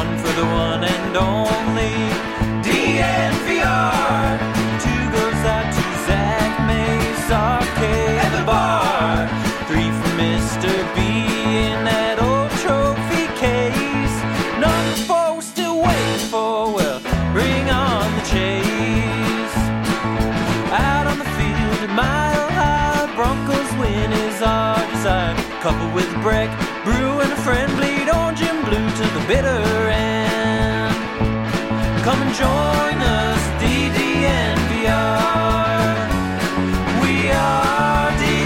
one for the one and only DNVR. Two goes out to Zach Mace, RK at the bar. Three for Mr. B in that old trophy case. Number four we're still waiting for, well, bring on the chase. Out on the field at Mile High, Broncos win is our desire. Couple with Breck, Brew and a friend, bleed orange and blue to the bitter end. Come and join us, DDNVR. We are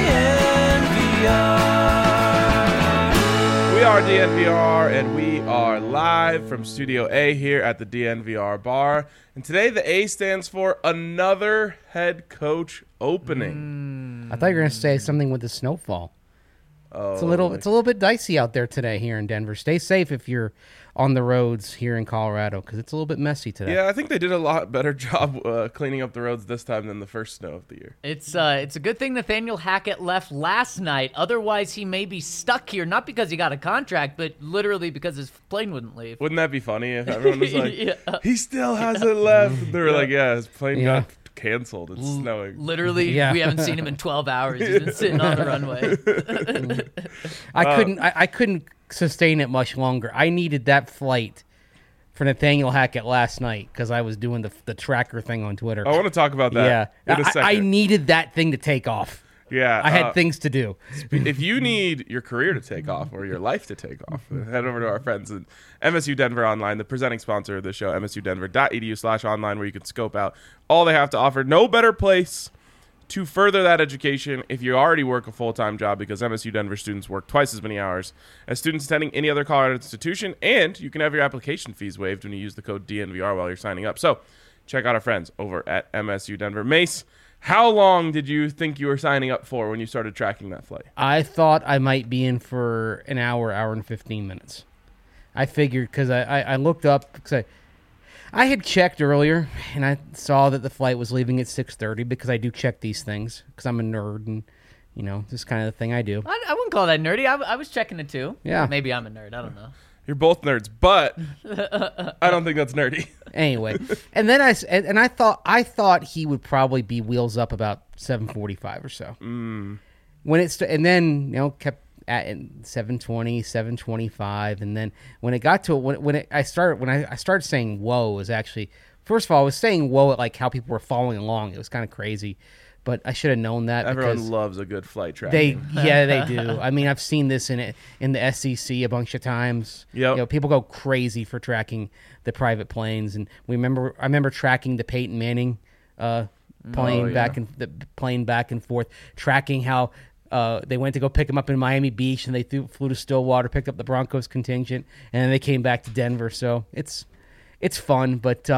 DNVR. We are DNVR, and we are live from Studio A here at the DNVR bar. And today the A stands for another head coach opening. I thought you were going to say something with the snowfall. Oh, It's a little bit dicey out there today here in Denver. Stay safe if you're on the roads here in Colorado because it's a little bit messy today. Yeah, I think they did a lot better job cleaning up the roads this time than the first snow of the year. It's a good thing Nathaniel Hackett left last night. Otherwise, he may be stuck here, not because he got a contract, but literally because his plane wouldn't leave. Wouldn't that be funny if everyone was like, Yeah. he still hasn't left? They were like, yeah, his plane Yeah. got canceled. It's snowing. Literally, Yeah. we haven't seen him in 12 hours. He's been sitting on the runway. I couldn't sustain it much longer. I needed that flight for Nathaniel Hackett last night because I was doing the tracker thing on Twitter. I want to talk about that in a second. I needed that thing to take off. Yeah, I had things to do. If you need your career to take off or your life to take off, head over to our friends at MSU Denver Online, the presenting sponsor of the show, msudenver.edu/online, where you can scope out all they have to offer. No better place to further that education if you already work a full-time job, because MSU Denver students work twice as many hours as students attending any other Colorado institution, and you can have your application fees waived when you use the code DNVR while you're signing up. So check out our friends over at MSU Denver. Mace, how long did you think you were signing up for when you started tracking that flight? I thought I might be in for an hour and 15 minutes. I figured because I looked up because I had checked earlier and I saw that the flight was leaving at 6:30 because I do check these things because I'm a nerd and, you know, this is kind of the thing I do. I wouldn't call that nerdy. I was checking it too. Yeah. Maybe I'm a nerd. I don't know. You're both nerds, but I don't think that's nerdy. Anyway, and then I thought he would probably be wheels up about 7:45 or so. When it's and then you know kept at 7:20, 7:25, and then when it got to I started saying whoa, was actually first of all I was saying whoa at like how people were following along. It was kind of crazy, but I should have known that. Everyone loves a good flight tracking. They do. I mean, I've seen this in the SEC a bunch of times. Yep. You know, people go crazy for tracking the private planes, and I remember tracking the Peyton Manning plane back and forth, tracking how they went to go pick him up in Miami Beach, and they flew to Stillwater, picked up the Broncos contingent, and then they came back to Denver. So it's fun, but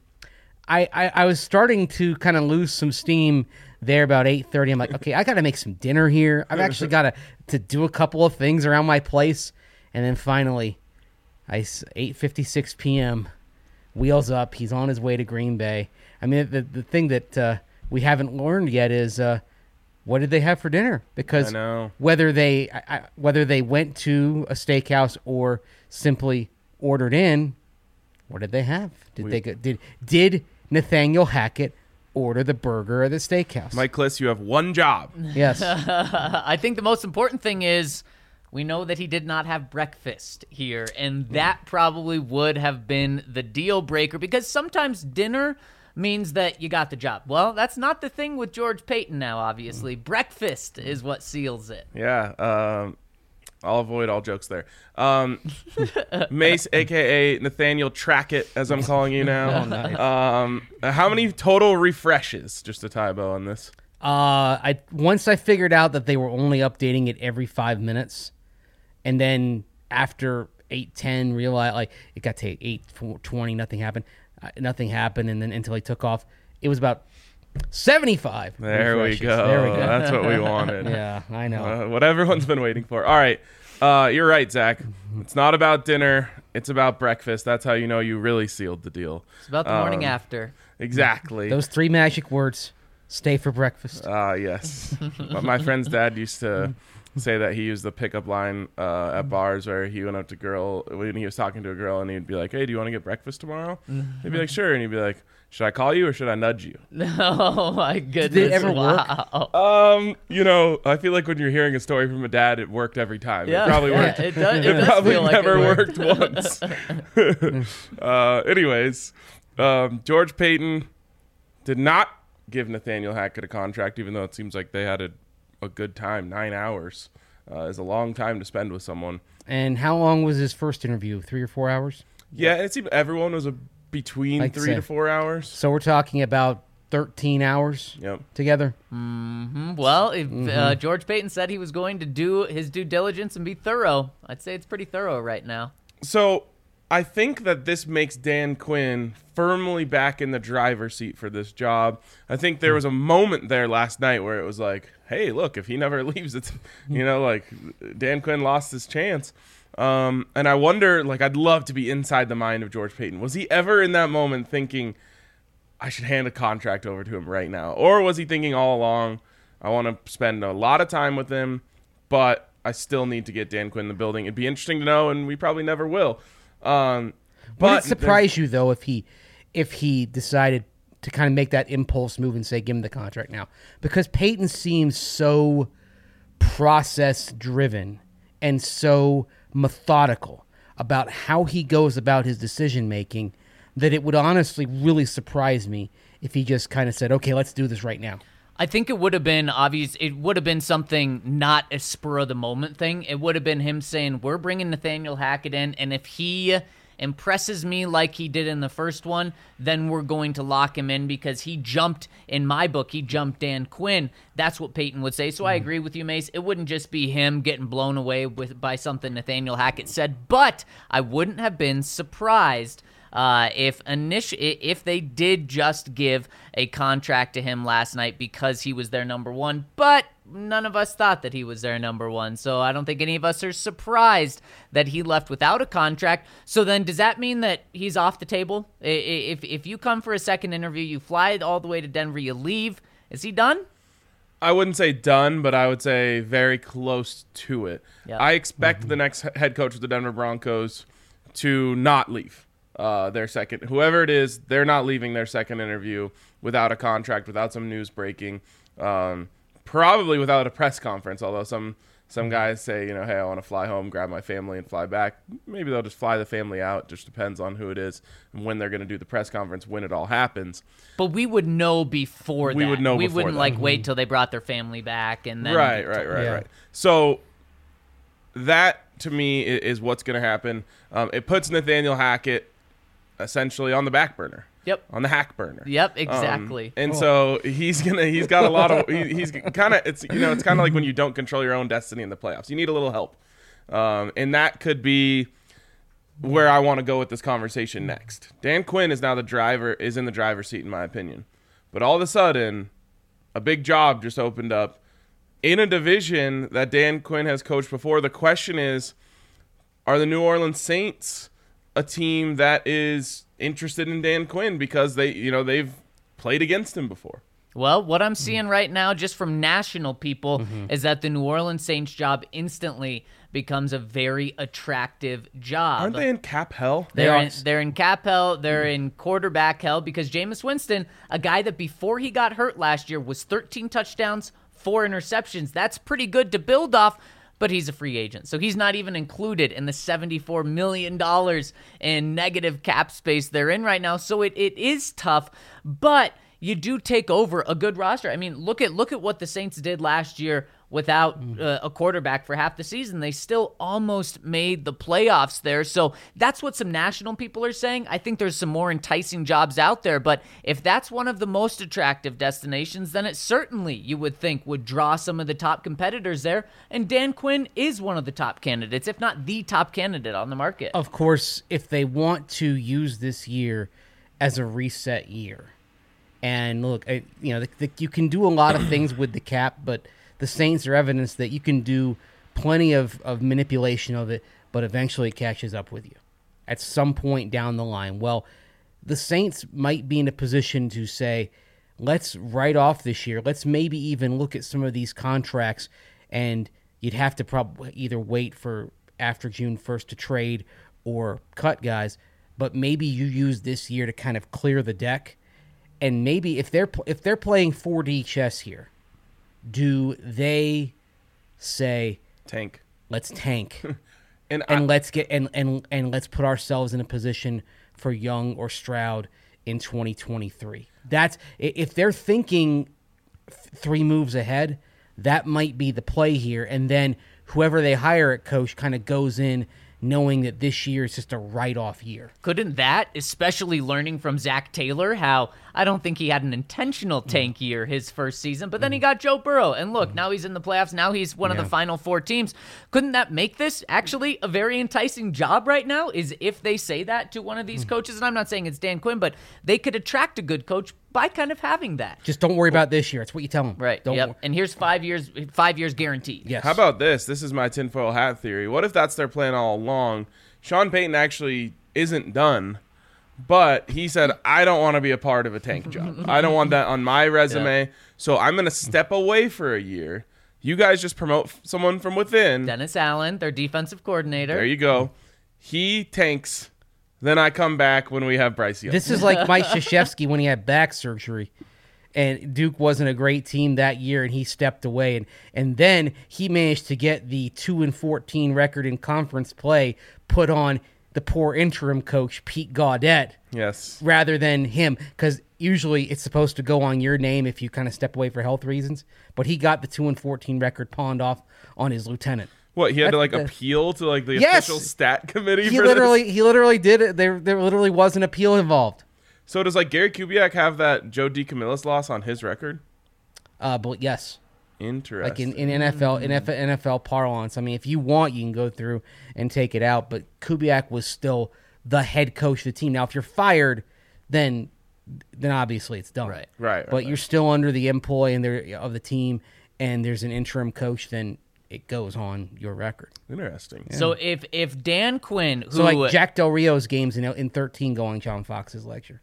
I was starting to kind of lose some steam there about 8:30. I'm like, okay, I got to make some dinner here. I've actually got to do a couple of things around my place. And then finally, 8:56 p.m., wheels up. He's on his way to Green Bay. I mean, the thing that we haven't learned yet is what did they have for dinner? Because I know. whether they went to a steakhouse or simply ordered in, what did they have? Did Nathaniel Hackett order the burger at the steakhouse? Mike Kliss, you have one job. Yes. I think the most important thing is we know that he did not have breakfast here, and that probably would have been the deal breaker, because sometimes dinner means that you got the job. Well, that's not the thing with George Paton now, obviously. Breakfast is what seals it. Yeah. I'll avoid all jokes there. Mace, a.k.a. Nathaniel Trackett, as I'm calling you now. Oh, nice. How many total refreshes, just to tie a bow on this? Once I figured out that they were only updating it every 5 minutes, and then after 8:10 realized like it got to 8:20, nothing happened, and then until he took off, it was about 75. There we refreshes. go. There we go. That's what we wanted. Yeah, I know. What everyone's been waiting for. All right. You're right, Zach. It's not about dinner. It's about breakfast. That's how you know you really sealed the deal. It's about the morning after. Exactly. Those three magic words: stay for breakfast. Yes. My friend's dad used to say that he used the pickup line at bars where he went up to girl when he was talking to a girl and he'd be like, "Hey, do you want to get breakfast tomorrow?" He'd be like, "Sure," and he'd be like, "Should I call you or should I nudge you?" Oh my goodness! Did it ever work? I feel like when you're hearing a story from a dad, it worked every time. Yeah, It probably worked. It does. It probably feel like never it worked once. Anyways, George Payton did not give Nathaniel Hackett a contract, even though it seems like they had a good time. 9 hours is a long time to spend with someone. And how long was his first interview? 3 or 4 hours? Yeah, and it seemed everyone was between I'd 3 say. to 4 hours. So we're talking about 13 hours Yep. together. Well, if George Payton said he was going to do his due diligence and be thorough, I'd say it's pretty thorough right now. So I think that this makes Dan Quinn firmly back in the driver's seat for this job. I think there was a moment there last night where it was like, hey, look, if he never leaves, it's, like Dan Quinn lost his chance. And I wonder, I'd love to be inside the mind of George Payton. Was he ever in that moment thinking, I should hand a contract over to him right now? Or was he thinking all along, I want to spend a lot of time with him, but I still need to get Dan Quinn in the building? It'd be interesting to know, and we probably never will. Would But it surprise you though if he decided to kind of make that impulse move and say give him the contract now? Because Peyton seems so process driven and so methodical about how he goes about his decision making that it would honestly really surprise me if he just kind of said, okay, let's do this right now. I think it would have been obvious. It would have been something not a spur of the moment thing. It would have been him saying, we're bringing Nathaniel Hackett in, and if he impresses me like he did in the first one, then we're going to lock him in because he jumped, in my book, he jumped Dan Quinn. That's what Peyton would say. So I agree with you, Mace. It wouldn't just be him getting blown away by something Nathaniel Hackett said, but I wouldn't have been surprised if they did just give a contract to him last night because he was their number one, but none of us thought that he was their number one, so I don't think any of us are surprised that he left without a contract. So then does that mean that he's off the table? If you come for a second interview, you fly all the way to Denver, you leave, is he done? I wouldn't say done, but I would say very close to it. Yep. I expect the next head coach of the Denver Broncos to not leave. Their second, whoever it is, they're not leaving their second interview without a contract, without some news breaking, probably without a press conference. Although some guys say, hey, I want to fly home, grab my family, and fly back. Maybe they'll just fly the family out. It just depends on who it is and when they're going to do the press conference, when it all happens. But we would know before that. We would know we before wouldn't that. wait till they brought their family back and then Right. So that to me is what's going to happen. It puts Nathaniel Hackett essentially on the back burner. Yep. On the hack burner. Yep, exactly. So he's got a lot of he's kind of it's kind of like when you don't control your own destiny in the playoffs. You need a little help. And that could be where I want to go with this conversation next. Dan Quinn is now in the driver's seat in my opinion. But all of a sudden, a big job just opened up in a division that Dan Quinn has coached before. The question is, are the New Orleans Saints a team that is interested in Dan Quinn because they've played against him before? Well, what I'm seeing right now, just from national people, is that the New Orleans Saints job instantly becomes a very attractive job. Aren't they in cap hell? They're in cap hell. They're in quarterback hell because Jameis Winston, a guy that before he got hurt last year was 13 touchdowns, 4 interceptions. That's pretty good to build off. But he's a free agent, so he's not even included in the $74 million in negative cap space they're in right now. So it is tough, but you do take over a good roster. I mean, look at what the Saints did last year without a quarterback for half the season. They still almost made the playoffs there. So that's what some national people are saying. I think there's some more enticing jobs out there, but if that's one of the most attractive destinations, then it certainly, you would think, would draw some of the top competitors there. And Dan Quinn is one of the top candidates, if not the top candidate on the market. Of course, if they want to use this year as a reset year, and look, you can do a lot of things with the cap, but the Saints are evidence that you can do plenty of manipulation of it, but eventually it catches up with you at some point down the line. Well, the Saints might be in a position to say, let's write off this year. Let's maybe even look at some of these contracts and, you'd have to probably either wait for after June 1st to trade or cut guys. But maybe you use this year to kind of clear the deck, and maybe if they're playing 4D chess here, do they say Tank. let's tank And let's get and let's put ourselves in a position for Young or Stroud in 2023? That's if they're thinking 3 moves ahead, that might be the play here, and then whoever they hire at coach kind of goes in knowing that this year is just a write-off year. Couldn't that, especially learning from Zach Taylor, how I don't think he had an intentional tank year his first season, but then he got Joe Burrow, and look, now he's in the playoffs, now he's one of the final 4 teams. Couldn't that make this actually a very enticing job right now, is if they say that to one of these coaches, and I'm not saying it's Dan Quinn, but they could attract a good coach by kind of having that. Just don't worry about this year. That's what you tell them. Right, Don't yep. wor- And here's 5 years guaranteed. Yes. How about this? This is my tinfoil hat theory. What if that's their plan all along? Sean Payton actually isn't done, but he said, I don't want to be a part of a tank job. I don't want that on my resume, so I'm going to step away for a year. You guys just promote someone from within. Dennis Allen, their defensive coordinator. There you go. He tanks. Then I come back when we have Bryce Young. This is like Mike Krzyzewski when he had back surgery, and Duke wasn't a great team that year, and he stepped away, and then he managed to get the 2-14 record in conference play put on the poor interim coach Pete Gaudette Yes. rather than him, because usually it's supposed to go on your name if you kind of step away for health reasons, but he got the 2-14 record pawned off on his lieutenant. What, he had to That's- appeal to the Yes! official stat committee He for literally did it. There literally was an appeal involved. this? So does Gary Kubiak have that Joe DiCamillis loss on his record? But yes. Interesting. Like in NFL parlance. I mean, if you want, you can go through and take it out. But Kubiak was still the head coach of the team. Now, if you're fired, then obviously it's done. Right, But you're still under the employ of the team, and there's an interim coach, then it goes on your record. Interesting. So if Dan Quinn, who So like Jack Del Rio's games in 13 going John Fox's lecture.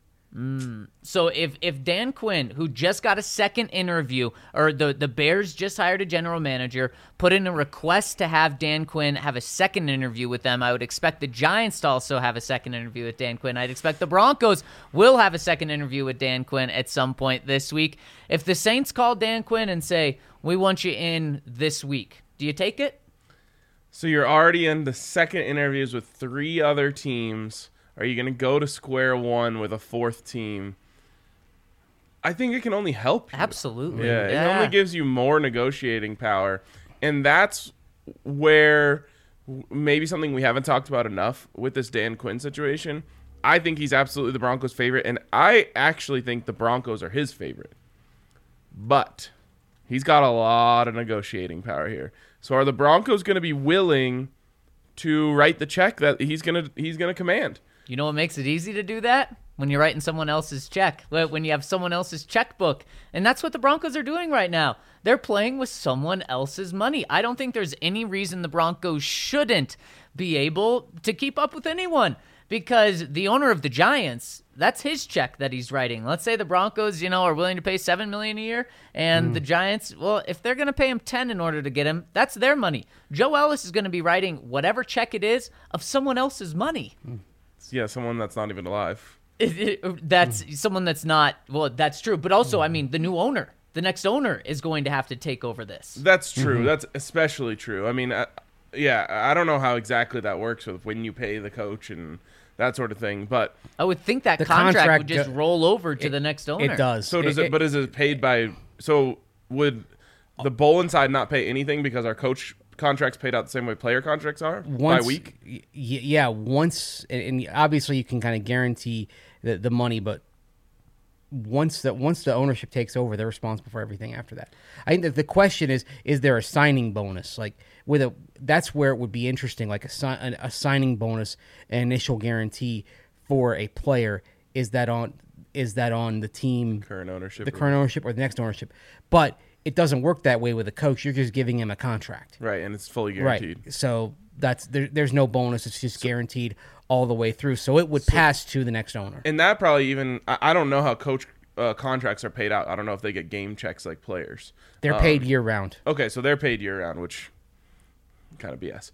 So if Dan Quinn, who just got a second interview, or the Bears just hired a general manager, put in a request to have Dan Quinn have a second interview with them, I would expect the Giants to also have a second interview with Dan Quinn. I'd expect the Broncos will have a second interview with Dan Quinn at some point this week. If the Saints call Dan Quinn and say, we want you in this week, do you take it? So you're already in the second interviews with 3 other teams. Are you going to go to square one with a 4th team? I think it can only help you. Absolutely. Yeah, it only gives you more negotiating power. And that's where maybe something we haven't talked about enough with this Dan Quinn situation. I think he's absolutely the Broncos' favorite, and I actually think the Broncos are his favorite. But he's got a lot of negotiating power here. So are the Broncos going to be willing to write the check that he's going to command? You know what makes it easy to do that? When you're writing someone else's check, when you have someone else's checkbook. And that's what the Broncos are doing right now. They're playing with someone else's money. I don't think there's any reason the Broncos shouldn't be able to keep up with anyone, because the owner of the Giants, that's his check that he's writing. Let's say the Broncos, are willing to pay $7 million a year, and the Giants, well, if they're going to pay him $10 million in order to get him, that's their money. Joe Ellis is going to be writing whatever check it is of someone else's money. Yeah, someone that's not even alive. That's someone that's not, well, that's true. But also, I mean, the new owner, the next owner is going to have to take over this. That's true. That's especially true. I mean, I don't know how exactly that works with when you pay the coach and that sort of thing, but I would think that The contract would contract just roll over to the next owner. It does. so does it? But is it paid by? So would the Bolin side not pay anything because our coach contracts paid out the same way player contracts are by week? Yeah, once, and obviously you can kind of guarantee the money, but once the ownership takes over, they're responsible for everything after that. I think that the question is there a signing bonus? Like that's where it would be interesting, like a signing bonus, an initial guarantee for a player. Is that on the team, Current ownership, the current ownership, or the next ownership? But it doesn't work that way with a coach. You're just giving him a contract. right? And it's fully guaranteed. Right. So there's no bonus. It's just guaranteed all the way through. So it would pass to the next owner. And that probably even I don't know how coach contracts are paid out. I don't know if they get game checks like players. They're paid year round. Okay, so they're paid year round, which kind of BS.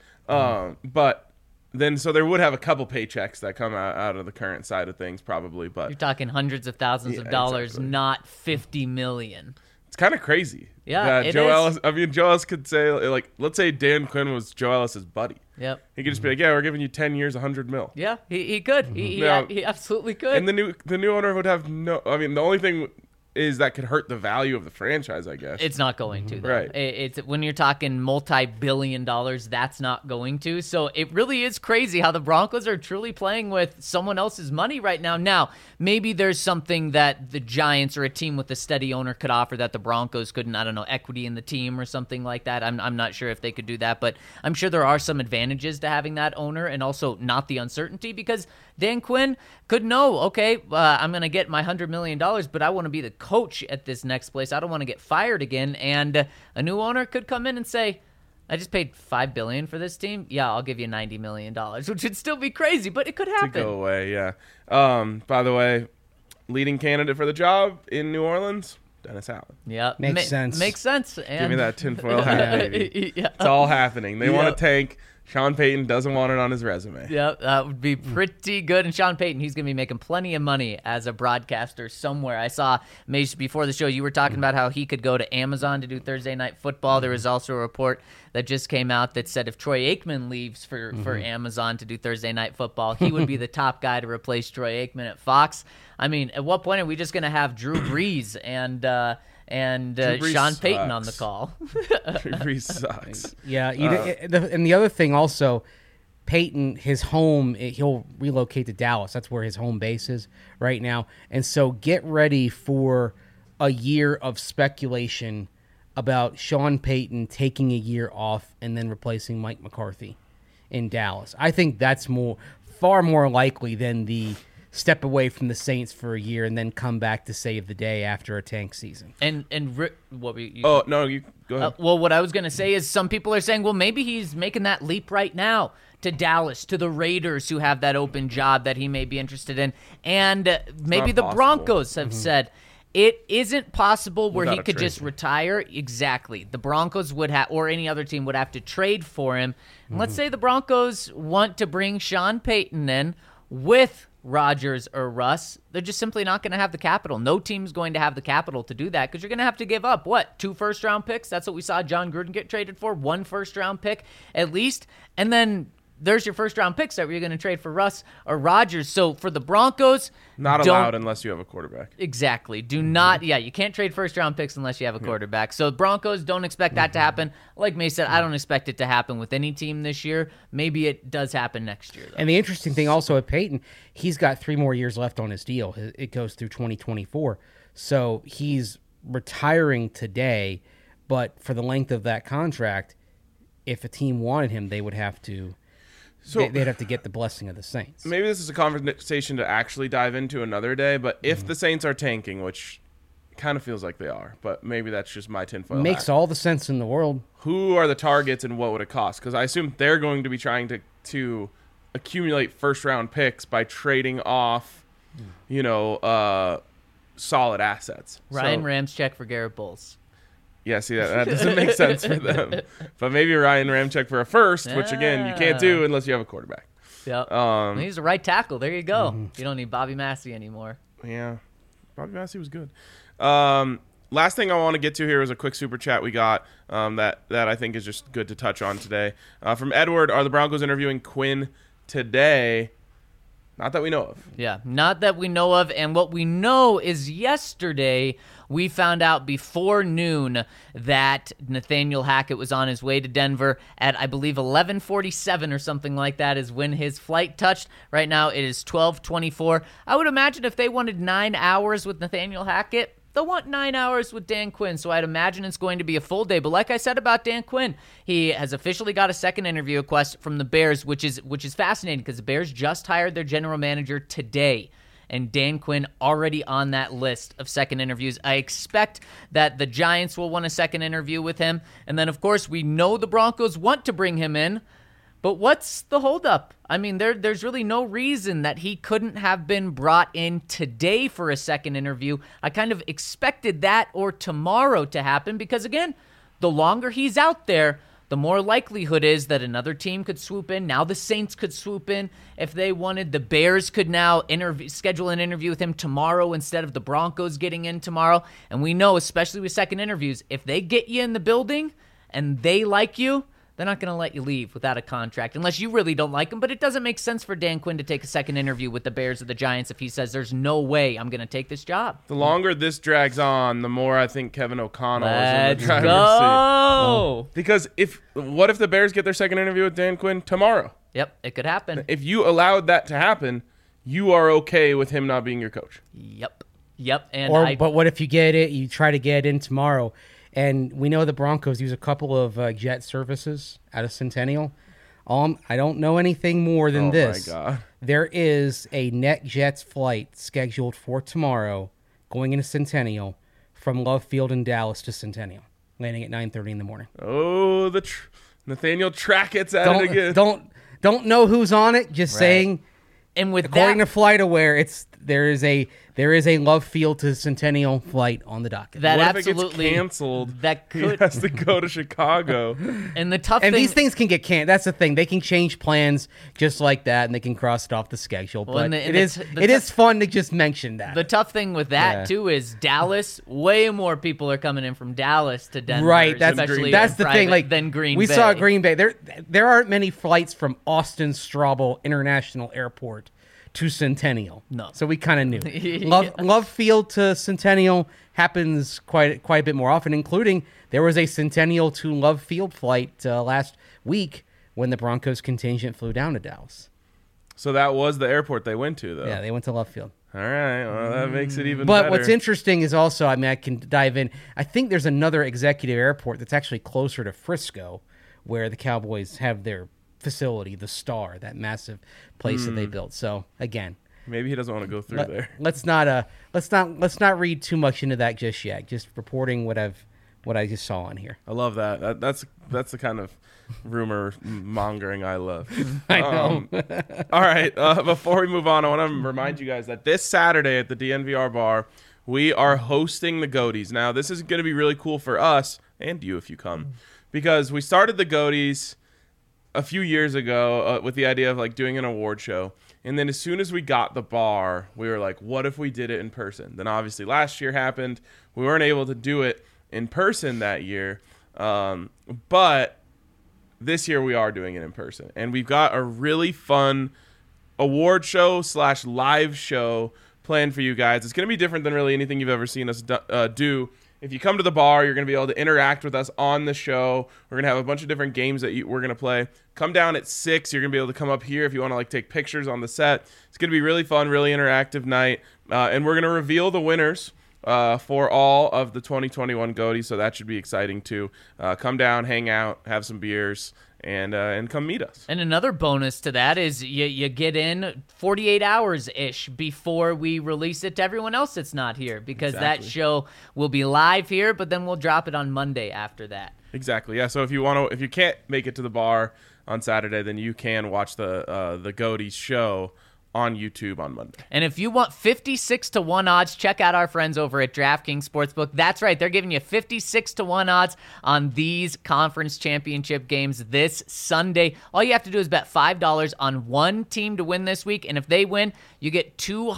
But then, so there would have a couple paychecks that come out of the current side of things, probably. But You're talking hundreds of thousands of dollars, exactly. not $50 million. It's kind of crazy. Yeah, that it Joe is. Ellis. I mean, Joe Ellis could say, like, let's say Dan Quinn was Joe Ellis's buddy. Yep. He could just be like, "Yeah, we're giving you 10 years, $100 million." Yeah, he could. He absolutely could. And the new owner would have no. I mean, the only thing is that could hurt the value of the franchise, I guess. It's not going to, though. Right. It's when you're talking multi-billion dollars, that's not going to. So it really is crazy how the Broncos are truly playing with someone else's money right now. Now, maybe there's something that the Giants or a team with a steady owner could offer that the Broncos couldn't. I don't know, equity in the team or something like that. I'm not sure if they could do that, but I'm sure there are some advantages to having that owner and also not the uncertainty, because Dan Quinn could know, okay, I'm going to get my $100 million, but I want to be the coach at this next place. I don't want to get fired again. And a new owner could come in and say, I just paid $5 billion for this team. Yeah, I'll give you $90 million, which would still be crazy, but it could happen. To go away, yeah. By the way, leading candidate for the job in New Orleans, Dennis Allen. Yeah, Makes sense. Makes sense. And Give me that tinfoil hat, baby. Yeah. It's all happening. They want Yeah. to tank. Sean Payton doesn't want it on his resume. Yeah, that would be pretty good. And Sean Payton, he's going to be making plenty of money as a broadcaster somewhere. I saw, Mace, before the show, you were talking about how he could go to Amazon to do Thursday Night Football. There was also a report that just came out that said if Troy Aikman leaves for Amazon to do Thursday Night Football, he would be the top guy to replace Troy Aikman at Fox. I mean, at what point are we just going to have Drew Brees and Brees Sean Payton on the sucks. call? Drew Brees sucks. Yeah, and the other thing also, Peyton, his home, he'll relocate to Dallas. That's where his home base is right now. And so get ready for a year of speculation about Sean Payton taking a year off and then replacing Mike McCarthy in Dallas. I think that's far more likely than the step away from the Saints for a year and then come back to save the day after a tank season. What were you? Oh, no, you go ahead. Well, what I was going to say is some people are saying, well, maybe he's making that leap right now to Dallas, to the Raiders who have that open job that he may be interested in. And maybe not the possible. Broncos have said it isn't possible where Without he a could trade. just retire. Exactly. The Broncos would have, or any other team would have to trade for him. And let's say the Broncos want to bring Sean Payton in with Rodgers or Russ. They're just simply not going to have the capital. No team's going to have the capital to do that because you're going to have to give up, 2 first-round picks? That's what we saw John Gruden get traded for, 1 first-round pick at least. And then there's your first-round picks that you're going to trade for Russ or Rodgers. So for the Broncos, Not don't- allowed unless you have a quarterback. Exactly. Do not, you can't trade first-round picks unless you have a quarterback. So Broncos, don't expect that to happen. Like May said, I don't expect it to happen with any team this year. Maybe it does happen next year, though. And the interesting thing also at Peyton, he's got 3 more years left on his deal. It goes through 2024. So he's retiring today, but for the length of that contract, if a team wanted him, they would have to they'd have to get the blessing of the Saints. Maybe this is a conversation to actually dive into another day, but if the Saints are tanking, which kind of feels like they are, but maybe that's just my tinfoil Makes hat. all the sense in the world. Who are the targets and what would it cost? Because I assume they're going to be trying to accumulate first-round picks by trading off, solid assets. Ryan So- Ramczyk for Garrett Bowles. Yeah, see, that doesn't make sense for them. But maybe Ryan Ramczyk for a first, which, again, you can't do unless you have a quarterback. Yep. He's a right tackle. There you go. You don't need Bobby Massey anymore. Yeah, Bobby Massey was good. Last thing I want to get to here is a quick super chat we got that I think is just good to touch on today. From Edward, are the Broncos interviewing Quinn today? Not that we know of. Yeah, not that we know of. And what we know is yesterday we found out before noon that Nathaniel Hackett was on his way to Denver at, I believe, 11:47 or something like that is when his flight touched. Right now it is 12:24. I would imagine if they wanted 9 hours with Nathaniel Hackett, they'll want 9 hours with Dan Quinn, so I'd imagine it's going to be a full day. But like I said about Dan Quinn, he has officially got a second interview request from the Bears, which is fascinating because the Bears just hired their general manager today, and Dan Quinn already on that list of second interviews. I expect that the Giants will want a second interview with him, and then, of course, we know the Broncos want to bring him in. But what's the holdup? I mean, there's really no reason that he couldn't have been brought in today for a second interview. I kind of expected that or tomorrow to happen because, again, the longer he's out there, the more likelihood is that another team could swoop in. Now the Saints could swoop in if they wanted. The Bears could now schedule an interview with him tomorrow instead of the Broncos getting in tomorrow. And we know, especially with second interviews, if they get you in the building and they like you, they're not going to let you leave without a contract unless you really don't like him. But it doesn't make sense for Dan Quinn to take a second interview with the Bears or the Giants if he says there's no way I'm going to take this job. The longer this drags on, the more I think Kevin O'Connell is in Let's the driver's go. seat. Because what if the Bears get their second interview with Dan Quinn tomorrow? Yep, it could happen. If you allowed that to happen, you are okay with him not being your coach. Yep. And but what if you get it? You try to get it in tomorrow. And we know the Broncos use a couple of jet services out of Centennial. I don't know anything more than this. Oh, my God. There is a NetJets flight scheduled for tomorrow going into Centennial from Love Field in Dallas to Centennial, landing at 9:30 in the morning. Oh, Nathaniel Trackett's at it again. Don't know who's on it, just saying. And with according to FlightAware, there is a Love Field to Centennial flight on the docket. That what absolutely if it gets canceled? That could He has to go to Chicago. And the tough and thing, these things can get canned. That's the thing; they can change plans just like that, and they can cross it off the schedule. But it is fun to just mention that. the tough thing with that too is Dallas. Way more people are coming in from Dallas to Denver. Right, that's the thing. Like than Green we Bay. saw Green Bay. There aren't many flights from Austin Straubel International Airport to Centennial. No. So we kind of knew. Love Field to Centennial happens quite a bit more often, including there was a Centennial to Love Field flight last week when the Broncos contingent flew down to Dallas. So that was the airport they went to, though. Yeah, they went to Love Field. All right. Well, that makes it even better. But what's interesting is also, I can dive in. I think there's another executive airport that's actually closer to Frisco where the Cowboys have their facility, the Star, that massive place that they built. So again, maybe he doesn't want to go through there. Let's not read too much into that just yet. Just reporting what I just saw on here. I love that. That's the kind of rumor mongering I love. I know. All right. Before we move on, I want to remind you guys that this Saturday at the DNVR bar, we are hosting the Goaties. Now, this is going to be really cool for us and you if you come, because we started the Goaties a few years ago with the idea of like doing an award show. And then as soon as we got the bar, we were like, what if we did it in person? Then obviously last year happened. We weren't able to do it in person that year. But this year we are doing it in person. And we've got a really fun award show / live show planned for you guys. It's going to be different than really anything you've ever seen us do. If you come to the bar, you're going to be able to interact with us on the show. We're going to have a bunch of different games that we're going to play. Come down at 6. You're going to be able to come up here if you want to like take pictures on the set. It's going to be really fun, really interactive night. And we're going to reveal the winners for all of the 2021 Goaties, so that should be exciting too. Come down, hang out, have some beers, and come meet us. And another bonus to that is you get in 48 hours-ish before we release it to everyone else that's not here, because that show will be live here, but then we'll drop it on Monday after that. Exactly. Yeah. So if you can't make it to the bar on Saturday, then you can watch the Goaties show on YouTube on Monday. And if you want 56-1 odds, check out our friends over at DraftKings Sportsbook. That's right, they're giving you 56-1 odds on these conference championship games this Sunday. All you have to do is bet $5 on one team to win this week, and if they win, you get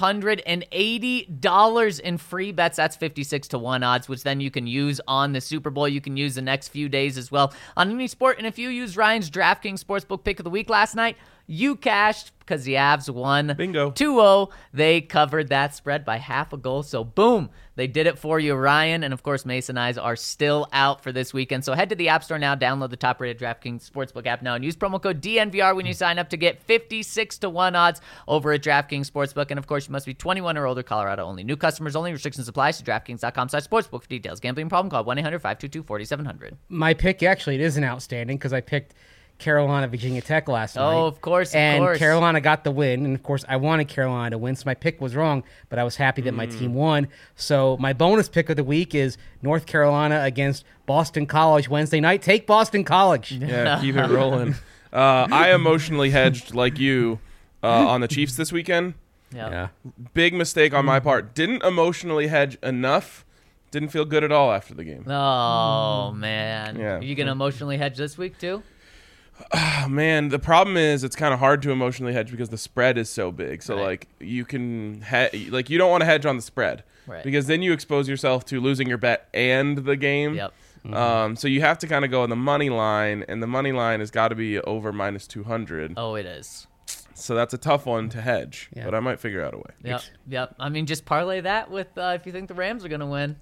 $280 in free bets. That's 56-1 odds, which then you can use on the Super Bowl. You can use the next few days as well on any sport. And if you use Ryan's DraftKings Sportsbook pick of the week last night, you cashed because the Avs won. Bingo. 2-0. They covered that spread by half a goal. So, boom, they did it for you, Ryan. And, of course, Mason Eyes are still out for this weekend. So, head to the App Store now, download the top-rated DraftKings Sportsbook app now, and use promo code DNVR when you sign up to get 56-1 odds over at DraftKings Sportsbook. And, of course, you must be 21 or older, Colorado only. New customers only. Restrictions apply. So, DraftKings.com/sportsbook for details. Gambling problem? Call 1-800-522-4700. My pick, actually, it isn't outstanding because I picked Carolina, Virginia Tech last night. Oh, of course, and Carolina got the win, and of course I wanted Carolina to win, so my pick was wrong, but I was happy that my team won. So my bonus pick of the week is North Carolina against Boston College Wednesday night. Take Boston College. Yeah, keep it rolling. I emotionally hedged like you on the Chiefs this weekend. Yeah. Big mistake on my part. Didn't emotionally hedge enough Didn't feel good at all after the game. Oh, man. Yeah. Are you going to emotionally hedge this week, too? Oh, man, the problem is it's kind of hard to emotionally hedge because the spread is so big. So, Right. like, you can you don't want to hedge on the spread Right. because then you expose yourself to losing your bet and the game. Yep. So you have to kind of go on the money line, and the money line has got to be over minus 200. Oh, it is. So that's a tough one to hedge, Yeah. but I might figure out a way. Yep. Yep. I mean, just parlay that with if you think the Rams are going to win.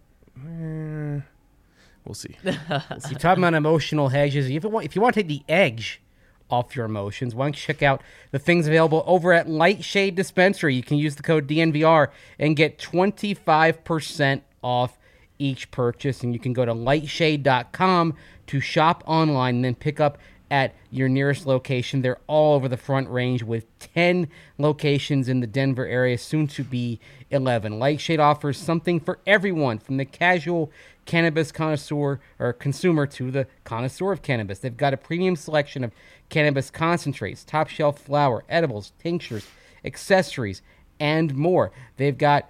We'll see. You're talking about emotional hedges. If you want to take the edge off your emotions, why don't you check out the things available over at Lightshade Dispensary? You can use the code DNVR and get 25% off each purchase. And you can go to lightshade.com to shop online and then pick up at your nearest location. They're all over the Front Range with 10 locations in the Denver area, soon to be 11. Lightshade offers something for everyone, from the casual cannabis connoisseur or consumer to the connoisseur of cannabis. They've got a premium selection of cannabis concentrates, top shelf flower, edibles, tinctures, accessories, and more. They've got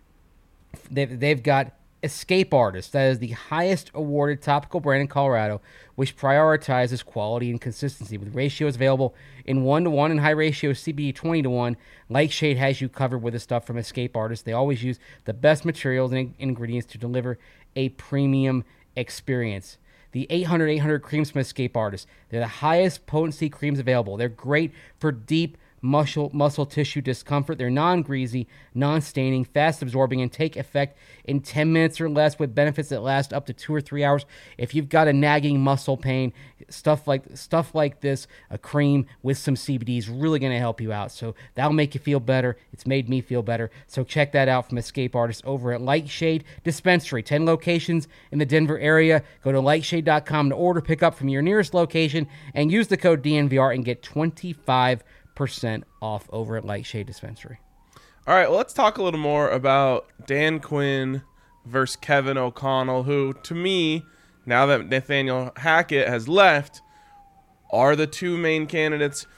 Escape Artist. That is the highest awarded topical brand in Colorado, which prioritizes quality and consistency. With ratios available in 1-to-1 and high ratio CBD 20-to-1, Lightshade has you covered with the stuff from Escape Artist. They always use the best materials and ingredients to deliver a premium experience. The 800 creams from Escape Artist. They're the highest potency creams available. They're great for deep muscle tissue discomfort. They're non-greasy, non-staining, fast-absorbing, and take effect in 10 minutes or less, with benefits that last up to 2 or 3 hours. If you've got a nagging muscle pain, stuff like this, a cream with some CBD is really going to help you out. So that'll make you feel better. It's made me feel better. So check that out from Escape Artist over at Lightshade Dispensary. 10 locations in the Denver area. Go to lightshade.com to order, pick up from your nearest location, and use the code DNVR and get 25% off over at Lightshade Dispensary. All right, well, let's talk a little more about Dan Quinn versus Kevin O'Connell, who, to me, now that Nathaniel Hackett has left, are the two main candidates.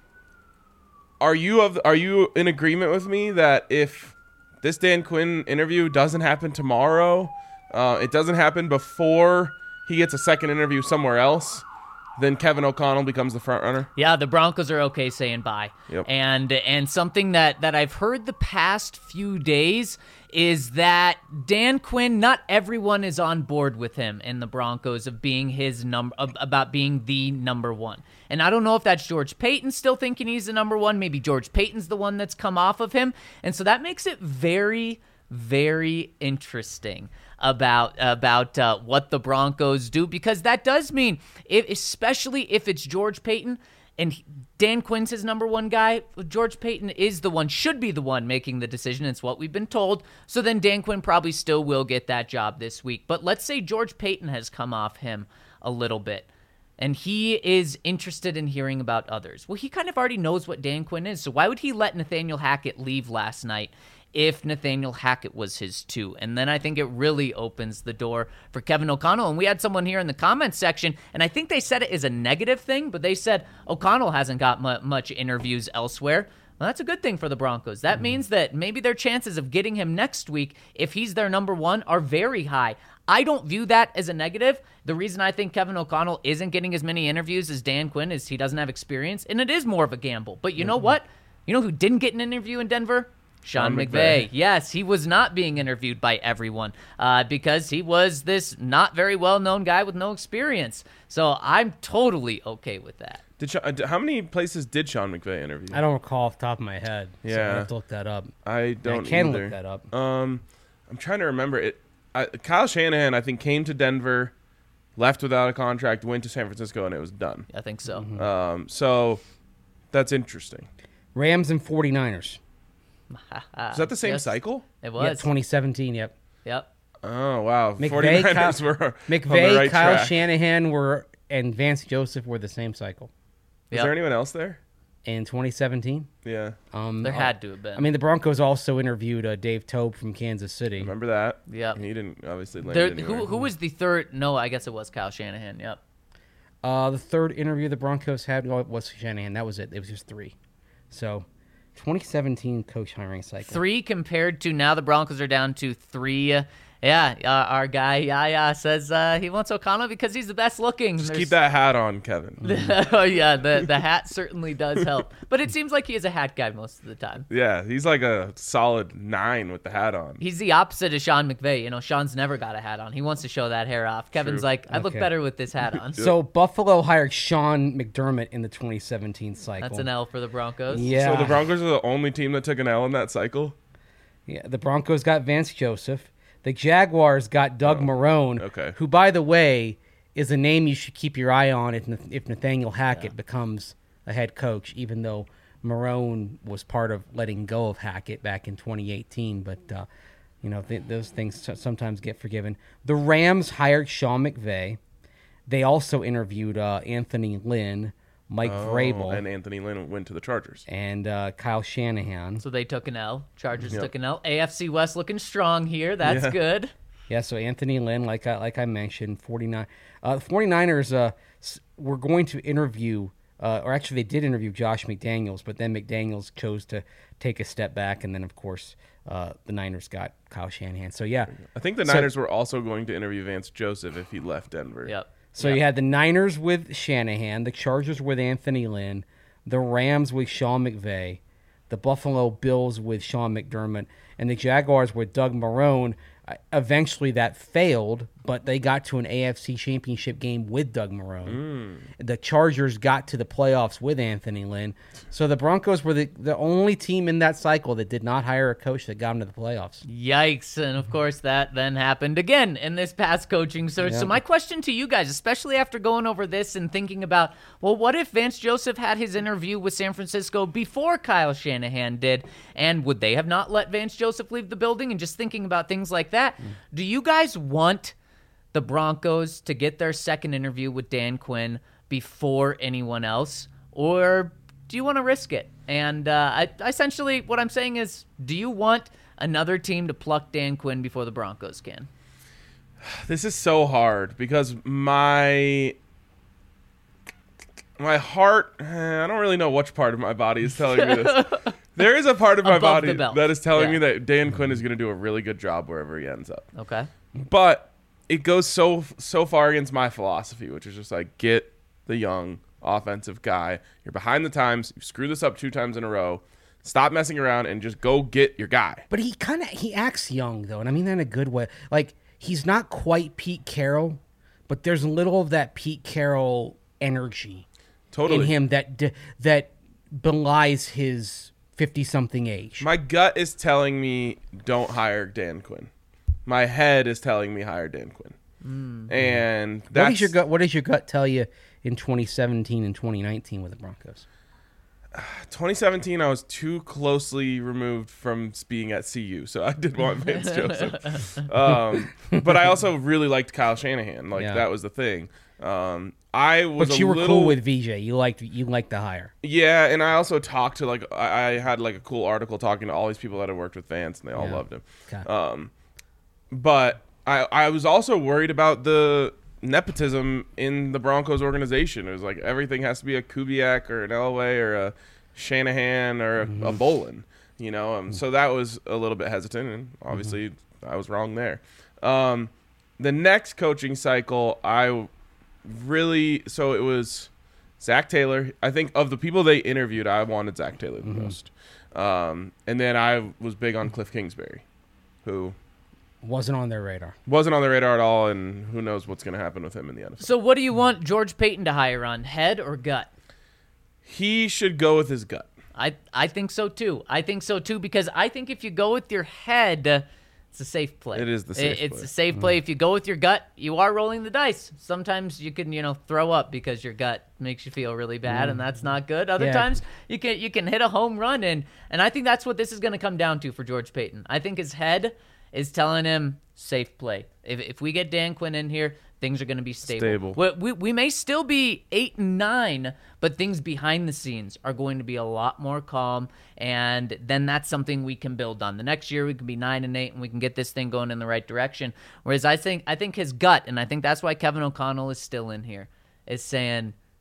Are you in agreement with me that if this Dan Quinn interview doesn't happen tomorrow, it doesn't happen before he gets a second interview somewhere else, then Kevin O'Connell becomes the front runner? Yeah, the Broncos are okay saying bye. Yep. And something that I've heard the past few days is that Dan Quinn, not everyone is on board with him in the Broncos of being about being the number one. And I don't know if that's George Payton still thinking he's the number one. Maybe George Payton's the one that's come off of him. And so that makes it very, very interesting about what the Broncos do, because that does mean, especially if it's George Payton and Dan Quinn's his number one guy, George Payton should be the one making the decision. It's what we've been told. So then Dan Quinn probably still will get that job this week. But let's say George Payton has come off him a little bit, and he is interested in hearing about others. Well, he kind of already knows what Dan Quinn is, so why would he let Nathaniel Hackett leave last night if Nathaniel Hackett was his two? And then I think it really opens the door for Kevin O'Connell. And we had someone here in the comments section, and I think they said it is a negative thing, but they said O'Connell hasn't got much interviews elsewhere. Well, that's a good thing for the Broncos. That means that maybe their chances of getting him next week, if he's their number one, are very high. I don't view that as a negative. The reason I think Kevin O'Connell isn't getting as many interviews as Dan Quinn is he doesn't have experience, and it is more of a gamble. But you know what? You know who didn't get an interview in Denver? Sean McVay. Yes, he was not being interviewed by everyone because he was this not very well-known guy with no experience. So I'm totally okay with that. How many places did Sean McVay interview? I don't recall off the top of my head. So Yeah. I have to look that up. I don't I can either. look that up. I'm trying to remember it. Kyle Shanahan, I think, came to Denver, left without a contract, went to San Francisco, and it was done. I think so. So that's interesting. Rams and 49ers. Is that the same Yes. cycle? It Yeah, was. 2017, yep. Yep. Oh, wow. McVay, 49ers were on the McVay, right Kyle track. Shanahan and Vance Joseph were the same cycle Is Yep. there anyone else there? in 2017. Yeah. There had to have been. I mean, the Broncos also interviewed Dave Tobe from Kansas City. Remember that? Yep. And he didn't obviously land There, anywhere. who was the third? No, I guess it was Kyle Shanahan. Yep. The third interview the Broncos had was Shanahan. That was it. It was just 3. So, 2017 coach hiring cycle. 3 compared to now the Broncos are down to 3 Yeah, our guy Yaya says he wants O'Connell because he's the best looking. Just keep that hat on, Kevin. Oh yeah, the hat certainly does help, but it seems like he is a hat guy most of the time. Yeah, he's like a solid 9 with the hat on. He's the opposite of Sean McVay. You know, Sean's never got a hat on. He wants to show that hair off. Kevin's like, I look better with this hat on. So Buffalo hired Sean McDermott in the 2017 cycle. That's an L for the Broncos. Yeah. So the Broncos are the only team that took an L in that cycle? Yeah, the Broncos got Vance Joseph. The Jaguars got Doug Marrone, okay. who, by the way, is a name you should keep your eye on if Nathaniel Hackett becomes a head coach, even though Marrone was part of letting go of Hackett back in 2018. But, those things sometimes get forgiven. The Rams hired Sean McVay. They also interviewed Anthony Lynn, Mike Vrabel. And Anthony Lynn went to the Chargers. And Kyle Shanahan. So they took an L. Chargers took an L. AFC West looking strong here. That's good. Yeah, so Anthony Lynn, like I mentioned, 49. The 49ers were going to interview, or actually they did interview Josh McDaniels, but then McDaniels chose to take a step back, and then, of course, the Niners got Kyle Shanahan. So, yeah. I think the Niners were also going to interview Vance Joseph if he left Denver. Yep. So you had the Niners with Shanahan, the Chargers with Anthony Lynn, the Rams with Sean McVay, the Buffalo Bills with Sean McDermott, and the Jaguars with Doug Marrone. Eventually that failed, but they got to an AFC championship game with Doug Marrone. The Chargers got to the playoffs with Anthony Lynn. So the Broncos were the only team in that cycle that did not hire a coach that got them to the playoffs. Yikes. And, of course, that then happened again in this past coaching search. So my question to you guys, especially after going over this and thinking about, well, what if Vance Joseph had his interview with San Francisco before Kyle Shanahan did, and would they have not let Vance Joseph leave the building? And just thinking about things like that, do you guys want the Broncos to get their second interview with Dan Quinn before anyone else, or do you want to risk it? And essentially what I'm saying is, do you want another team to pluck Dan Quinn before the Broncos can? This is so hard because my heart, I don't really know which part of my body is telling me this. There is a part of my Above body the belt. that is telling me that Dan Quinn is going to do a really good job wherever he ends up. Okay. But it goes so far against my philosophy, which is just like, get the young offensive guy. You're behind the times. You screwed this up 2 times in a row. Stop messing around and just go get your guy. But he acts young, though, and I mean that in a good way. Like, he's not quite Pete Carroll, but there's a little of that Pete Carroll energy in him that belies his 50-something age. My gut is telling me don't hire Dan Quinn. My head is telling me hire Dan Quinn. And that's... What does your gut tell you in 2017 and 2019 with the Broncos? 2017, I was too closely removed from being at CU, so I did want Vance Joseph. But I also really liked Kyle Shanahan. That was the thing. But you were cool with VJ. You liked the hire. Yeah, and I also talked to I had a cool article talking to all these people that had worked with Vance, and they all loved him. Okay. But I was also worried about the nepotism in the Broncos organization. It was like everything has to be a Kubiak or an Elway or a Shanahan or a Bolin, So that was a little bit hesitant, and obviously I was wrong there. The next coaching cycle, it was Zach Taylor. I think of the people they interviewed, I wanted Zach Taylor the most. And then I was big on Cliff Kingsbury, who wasn't on their radar. Wasn't on their radar at all, and who knows what's going to happen with him in the NFL. So what do you want George Payton to hire on, head or gut? He should go with his gut. I think so too. Because I think if you go with your head, it's a safe play. It is the safe play. It's a safe play. If you go with your gut, you are rolling the dice. Sometimes you can, throw up because your gut makes you feel really bad, and that's not good. Other times you can hit a home run, and I think that's what this is going to come down to for George Payton. I think his head is telling him safe play. If we get Dan Quinn in here, things are going to be stable. We may still be 8-9, but things behind the scenes are going to be a lot more calm, and then that's something we can build on. The next year we can be 9-8, and we can get this thing going in the right direction. Whereas I think his gut, and I think that's why Kevin O'Connell is still in here, is saying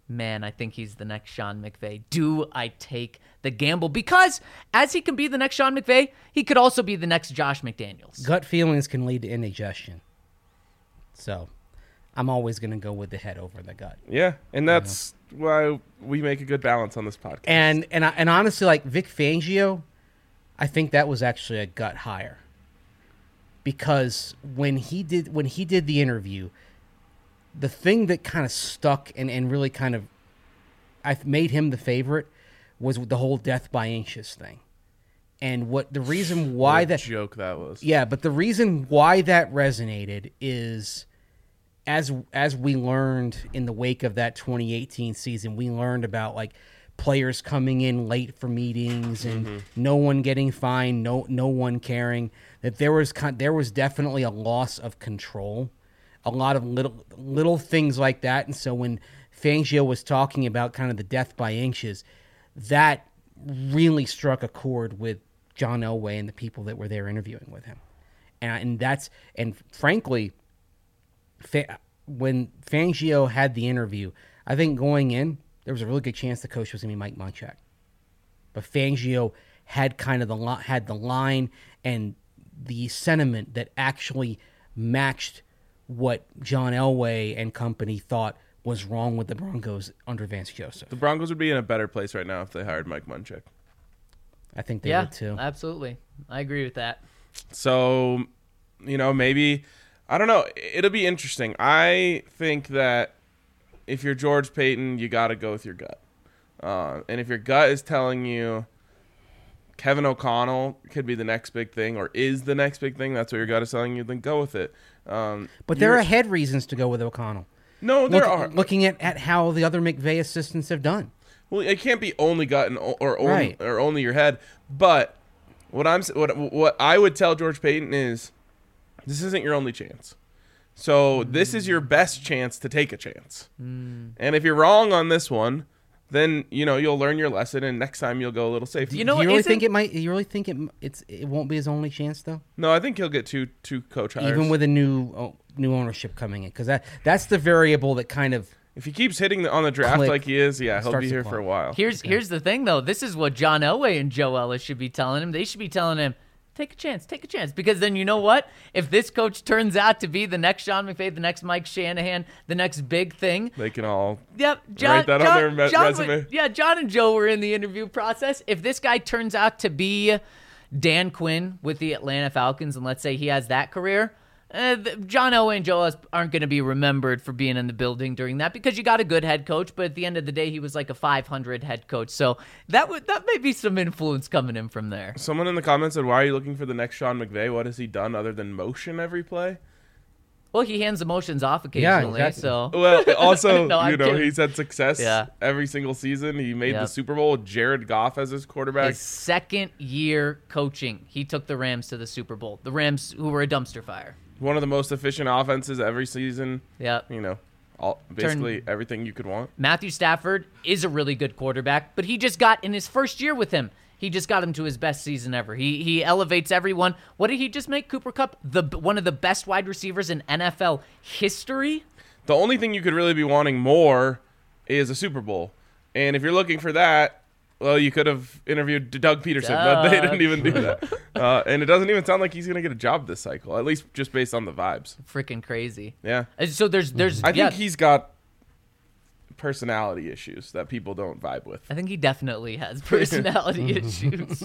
man, I think he's the next Sean McVay. Do I take the gamble? Because as he can be the next Sean McVay, he could also be the next Josh McDaniels. Gut feelings can lead to indigestion. So I'm always going to go with the head over the gut. Yeah, and that's why we make a good balance on this podcast. And honestly, like Vic Fangio, I think that was actually a gut hire. Because when he did the interview, the thing that kind of stuck and really kind of I made him the favorite was the whole death by anxious thing. And what the reason why What a that joke that was. Yeah, but the reason why that resonated is as we learned in the wake of that 2018 season, we learned about like players coming in late for meetings and no one getting fined, no one caring, that there was definitely a loss of control, a lot of little things like that. And so when Fangio was talking about kind of the death by inches, that really struck a chord with John Elway and the people that were there interviewing with him. And frankly, when Fangio had the interview, I think going in, there was a really good chance the coach was going to be Mike Munchak. But Fangio had kind of the line and the sentiment that actually matched what John Elway and company thought was wrong with the Broncos under Vance Joseph. The Broncos would be in a better place right now if they hired Mike Munchak. I think they would too. Absolutely. I agree with that. So, maybe, I don't know. It'll be interesting. I think that if you're George Payton, you got to go with your gut. And if your gut is telling you Kevin O'Connell could be the next big thing or is the next big thing, that's what your gut is telling you, then go with it. But there are head reasons to go with O'Connell. No, there are. Looking at how the other McVay assistants have done. Well, it can't be only gut or Right. only your head. But what I would tell George Payton is, this isn't your only chance. So this is your best chance to take a chance. And if you're wrong on this one, then you'll learn your lesson, and next time you'll go a little safer. You know, Do you really think it might? You really think it won't be his only chance though? No, I think he'll get two coach hires. Even with a new ownership coming in, because that's the variable that kind of. If he keeps hitting on the draft Click. like he is, he'll Starts be to here climb. for a while. Here's the thing, though. This is what John Elway and Joe Ellis should be telling him. They should be telling him, take a chance. Because then you know what? If this coach turns out to be the next Sean McVay, the next Mike Shanahan, the next big thing. They can all Yep, write that on their resume. John and Joe were in the interview process. If this guy turns out to be Dan Quinn with the Atlanta Falcons, and let's say he has that career, John Elway and Joe Ellis aren't going to be remembered for being in the building during that, because you got a good head coach, but at the end of the day, he was like a 500 head coach. So that may be some influence coming in from there. Someone in the comments said, why are you looking for the next Sean McVay? What has he done other than motion every play? Well, he hands emotions off occasionally. exactly. So Well, also, No, I'm kidding. he's had success Yeah. every single season. He made the Yep. Super Bowl with Jared Goff as his quarterback. his second year coaching, he took the Rams to the Super Bowl. The Rams, who were a dumpster fire. One of the most efficient offenses every season. Yep. Basically everything you could want. Matthew Stafford is a really good quarterback, but he just got, in his first year with him, he just got him to his best season ever. He elevates everyone. What did he just make Cooper Kupp one of the best wide receivers in NFL history? The only thing you could really be wanting more is a Super Bowl. And if you're looking for that, well, you could have interviewed Doug Peterson, but they didn't even do that. And it doesn't even sound like he's going to get a job this cycle, at least just based on the vibes. Freaking crazy. Yeah. So there's I think he's got personality issues that people don't vibe with. I think he definitely has personality issues.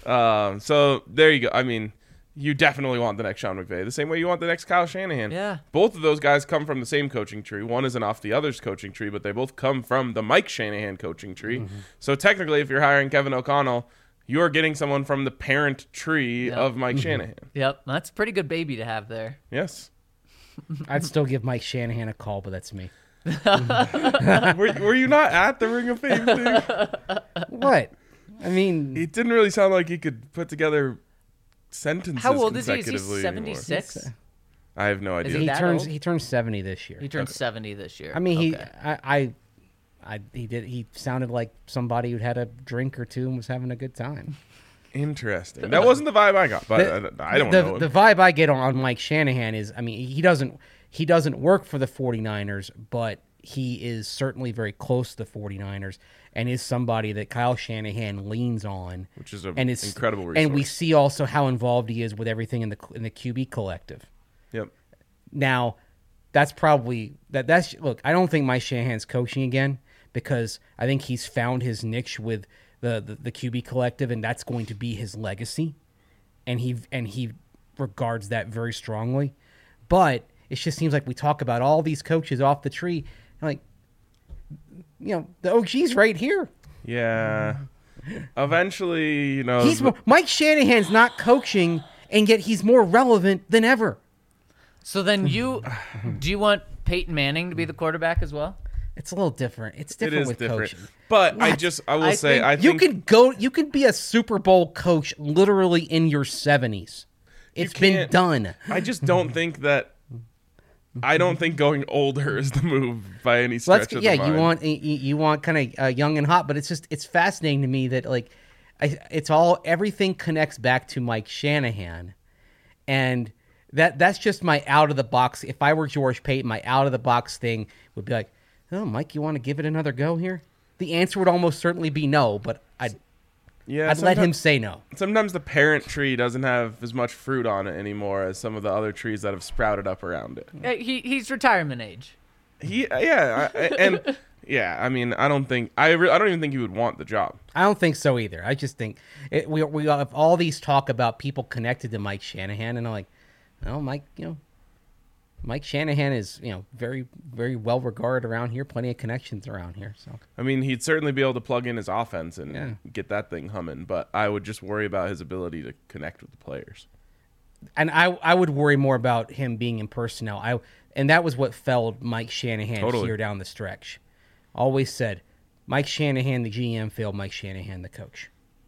So there you go. I mean, you definitely want the next Sean McVay, the same way you want the next Kyle Shanahan. Yeah. Both of those guys come from the same coaching tree. One isn't off the other's coaching tree, but they both come from the Mike Shanahan coaching tree. So technically, if you're hiring Kevin O'Connell, you're getting someone from the parent tree of Mike Shanahan. Yep, that's a pretty good baby to have there. Yes. I'd still give Mike Shanahan a call, but that's me. Were you not at the Ring of Fame thing? What? I mean, It didn't really sound like he could put together sentences How old is he? Is he consecutively anymore. 76? I have no Is idea. he that old? he turns 70 this year. He turned 70 this year. I mean, Okay. he sounded like somebody who'd had a drink or two and was having a good time. Interesting. That wasn't the vibe I got, but I don't know. The vibe I get on Mike Shanahan is, I mean, he doesn't work for the 49ers, but he is certainly very close to the 49ers and is somebody that Kyle Shanahan leans on. Which is an and it's incredible resource. And we see also how involved he is with everything in the QB collective. Yep. Now, that's probably that's look, I don't think Mike Shanahan's coaching again because I think he's found his niche with the QB collective, and that's going to be his legacy. And he regards that very strongly. But it just seems like we talk about all these coaches off the tree, like, you know, the OG's right here. Yeah. Eventually, you know, Mike Shanahan's not coaching, and yet he's more relevant than ever. So then do you want Peyton Manning to be the quarterback as well? It's a little different. It's different with coaching. But I think you can be a Super Bowl coach literally in your 70s. It's been done. I just don't think that. I don't think going older is the move by any stretch of the mind. you want kind of young and hot, but it's fascinating to me that like everything connects back to Mike Shanahan, and that's just my out of the box. If I were George Payton, my out of the box thing would be like, oh, Mike, you want to give it another go here? The answer would almost certainly be no, but I'd let him say no. Sometimes the parent tree doesn't have as much fruit on it anymore as some of the other trees that have sprouted up around it. He's retirement age. I mean, I don't even think he would want the job. I don't think so either. I just think we have all these talk about people connected to Mike Shanahan, and I'm like, oh, Mike Shanahan is, very, very well regarded around here. Plenty of connections around here. So I mean, he'd certainly be able to plug in his offense and get that thing humming. But I would just worry about his ability to connect with the players. And I would worry more about him being in personnel. And that was what felled Mike Shanahan here down the stretch. Always said, Mike Shanahan, the GM, failed Mike Shanahan, the coach.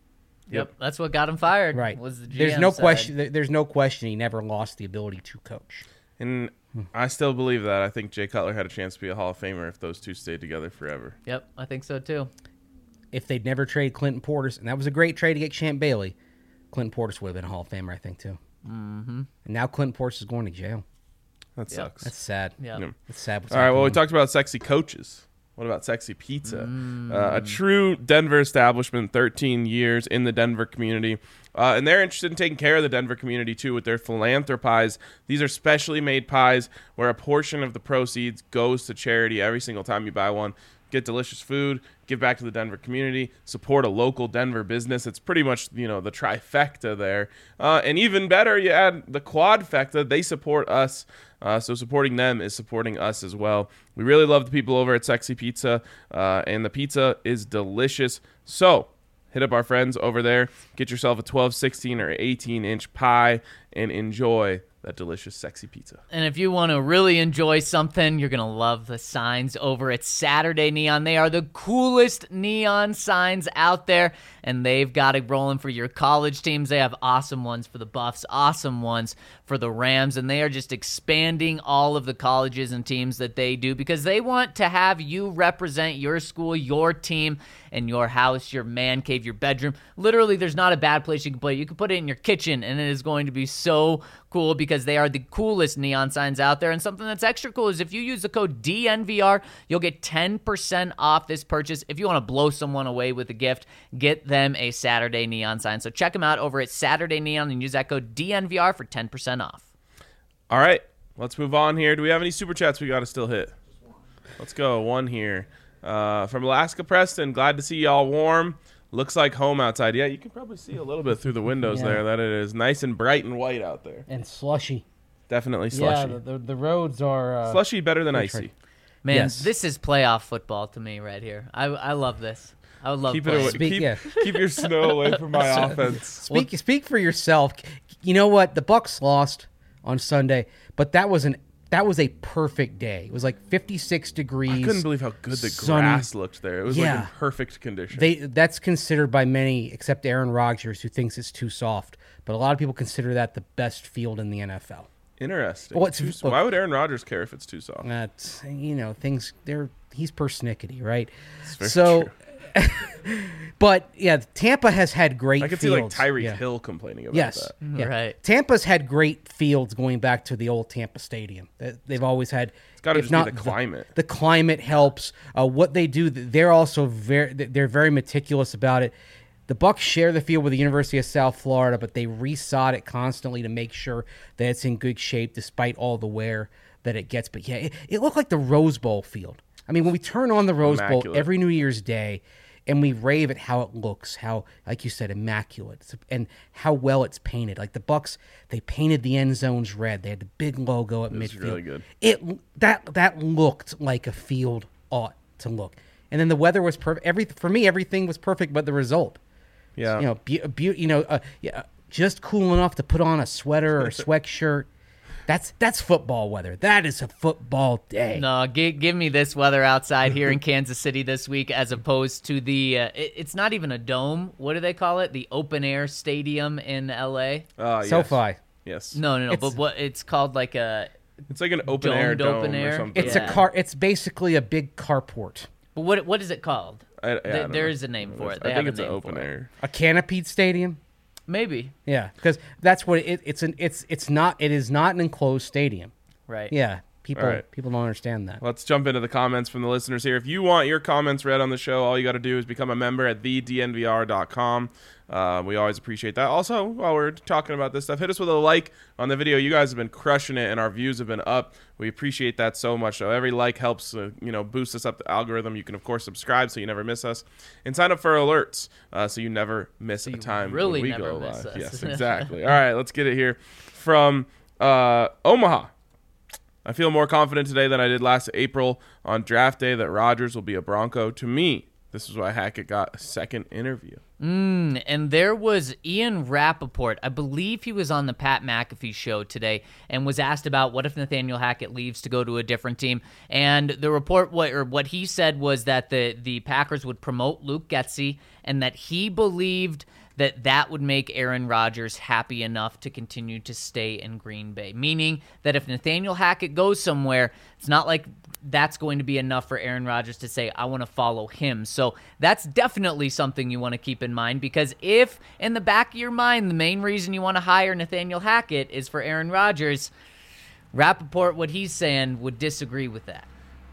Yep, that's what got him fired. Right. Was the GM There's no side. question. There's no question he never lost the ability to coach. And I still believe that. I think Jay Cutler had a chance to be a Hall of Famer if those two stayed together forever. Yep, I think so too. If they'd never traded Clinton Portis, and that was a great trade to get Champ Bailey, Clinton Portis would have been a Hall of Famer, I think, too. Mm-hmm. And now Clinton Portis is going to jail. That sucks. That's sad. Yeah. That's sad. All right, well, we talked about sexy coaches. What about sexy pizza? A true Denver establishment, 13 years in the Denver community. And they're interested in taking care of the Denver community, too, with their philanthropies. These are specially made pies where a portion of the proceeds goes to charity every single time you buy one. Get delicious food, give back to the Denver community, support a local Denver business. It's pretty much, the trifecta there. And even better, you add the quadfecta. They support us. So supporting them is supporting us as well. We really love the people over at Sexy Pizza, and the pizza is delicious. So hit up our friends over there. Get yourself a 12, 16, or 18-inch pie and enjoy that delicious sexy pizza. And if you want to really enjoy something, you're going to love the signs over at Saturday Neon. They are the coolest neon signs out there, and they've got it rolling for your college teams. They have awesome ones for the Buffs, awesome ones for the Rams, and they are just expanding all of the colleges and teams that they do because they want to have you represent your school, your team, and your house, your man cave, your bedroom. Literally, there's not a bad place you can put it. You can put it in your kitchen, and it is going to be so cool because they are the coolest neon signs out there. And something that's extra cool is if you use the code DNVR, you'll get 10% off this purchase. If you want to blow someone away with a gift, get them a Saturday Neon sign. So check them out over at Saturday Neon and use that code DNVR for 10% off. All right, let's move on here. Do we have any super chats we got to still hit? Let's go. One here. From Alaska Preston, glad to see y'all warm. Looks like home outside. Yeah, you can probably see a little bit through the windows there that it is nice and bright and white out there. And slushy. Definitely slushy. Yeah, the roads are... slushy better than icy. Man, This is playoff football to me right here. I love this. I would love keep playing. Keep your snow away from my offense. Speak for yourself. You know what? The Bucks lost on Sunday, but that was a perfect day. It was like 56 degrees. I couldn't believe how good the grass looked there. It was like in perfect condition. That's considered by many, except Aaron Rodgers, who thinks it's too soft. But a lot of people consider that the best field in the NFL. Interesting. Well, why would Aaron Rodgers care if it's too soft? That's, things, he's persnickety, right? It's very true. But yeah, Tampa has had great I could fields. see like Tyreek Yeah. Hill complaining about Yes. that. Yeah. Right. Tampa's had great fields going back to the old Tampa Stadium. They've always had. It's got to if just not be the climate. The climate helps. What they do, they're also they're very meticulous about it. The Bucs share the field with the University of South Florida, but they resod it constantly to make sure that it's in good shape despite all the wear that it gets. But yeah, it looked like the Rose Bowl field. I mean, when we turn on the Rose Bowl Immaculate. every New Year's Day and we rave at how it looks, how, like you said, immaculate, and how well it's painted. Like the Bucs, they painted the end zones red. They had the big logo at midfield. really good. That looked like a field ought to look. And then the weather was perfect. For me, everything was perfect, but the result. Yeah. Just cool enough to put on a sweater or sweatshirt. That's football weather. That is a football day. No, give me this weather outside here in Kansas City this week as opposed to the, it's not even a dome. What do they call it? The open air stadium in L.A.? Yes. SoFi. Yes. No. But what it's called like a, It's like an open air Domed dome open or air? something. It's Yeah. a car. It's basically a big carport. but what is it called? I don't There know. is a name for it. I They think have it's a an name open for it. air. A canopied stadium. Maybe. Yeah, because that's what it is not an enclosed stadium. Right. Yeah, people All right. don't understand that. Let's jump into the comments from the listeners here. If you want your comments read on the show, all you got to do is become a member at thednvr.com. We always appreciate that. Also, while we're talking about this stuff, hit us with a like on the video. You guys have been crushing it, and our views have been up. We appreciate that so much. So every like helps, boost us up the algorithm. You can, of course, subscribe so you never miss us, and sign up for alerts so you never miss a time really when we never go miss live. us. Yes, exactly. All right, let's get it here from Omaha. I feel more confident today than I did last April on draft day that Rodgers will be a Bronco. To me, this is why Hackett got a second interview. And there was Ian Rappaport. I believe he was on the Pat McAfee show today and was asked about what if Nathaniel Hackett leaves to go to a different team. And the report, what he said was that the Packers would promote Luke Getsy and that he believed that would make Aaron Rodgers happy enough to continue to stay in Green Bay. Meaning that if Nathaniel Hackett goes somewhere, it's not like that's going to be enough for Aaron Rodgers to say, I want to follow him. So that's definitely something you want to keep in mind, because if in the back of your mind, the main reason you want to hire Nathaniel Hackett is for Aaron Rodgers, Rappaport, what he's saying, would disagree with that.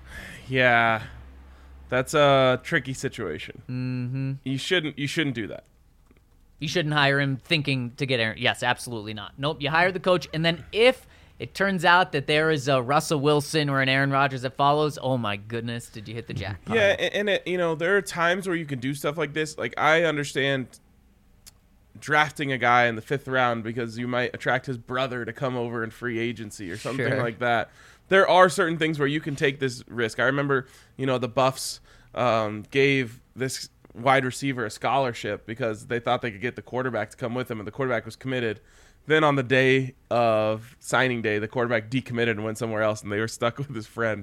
Yeah, that's a tricky situation. Mm-hmm. You shouldn't do that. You shouldn't hire him thinking to get Aaron. Yes, absolutely not. Nope, you hire the coach, and then if it turns out that there is a Russell Wilson or an Aaron Rodgers that follows, oh my goodness, did you hit the jackpot? Yeah, and there are times where you can do stuff like this. Like, I understand drafting a guy in the 5th round because you might attract his brother to come over in free agency or something Sure. like that. There are certain things where you can take this risk. I remember, the Buffs gave this wide receiver a scholarship because they thought they could get the quarterback to come with them, and the quarterback was committed. Then on the day of signing day, the quarterback decommitted and went somewhere else, and they were stuck with his friend.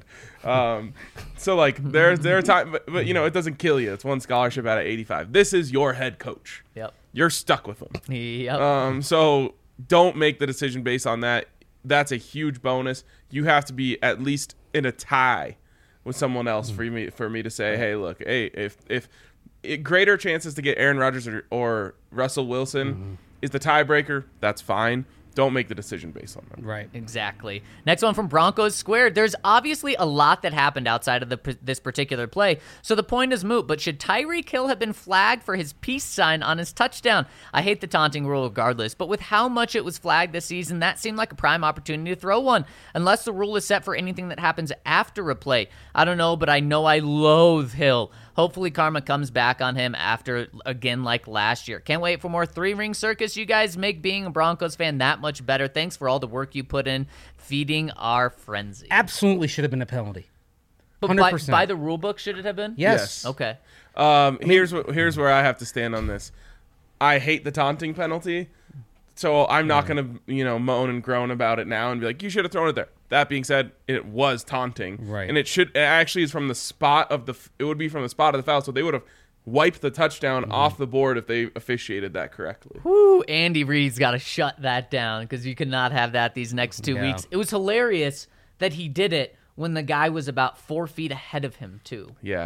So like there are times, but it doesn't kill you. It's one scholarship out of 85. This is your head coach. Yep. You're stuck with him. Yep. So don't make the decision based on that. That's a huge bonus. You have to be at least in a tie with someone else for me to say, hey, look, if greater chances to get Aaron Rodgers or Russell Wilson is the tiebreaker, that's fine. Don't make the decision based on them. Right. Exactly. Next one from Broncos Squared. There's obviously a lot that happened outside of this particular play, so the point is moot, but should Tyreek Hill have been flagged for his peace sign on his touchdown? I hate the taunting rule regardless, but with how much it was flagged this season, that seemed like a prime opportunity to throw one, unless the rule is set for anything that happens after a play. I don't know, but I know I loathe Hill. Hopefully karma comes back on him after, again, like last year. Can't wait for more 3-ring circus. You guys make being a Broncos fan that much better. Thanks for all the work you put in feeding our frenzy. Absolutely should have been a penalty. But 100%. by the rule book, should it have been? Yes. Okay. Here's where I have to stand on this. I hate the taunting penalty, so I'm not going to moan and groan about it now and be like, you should have thrown it there. That being said, it was taunting, Right. and it actually is from the spot of it would be from the spot of the foul, so they would have wiped the touchdown off the board if they officiated that correctly. Woo, Andy Reid's got to shut that down because you cannot have that these next 2 Yeah. weeks. It was hilarious that he did it when the guy was about 4 feet ahead of him, too. Yeah.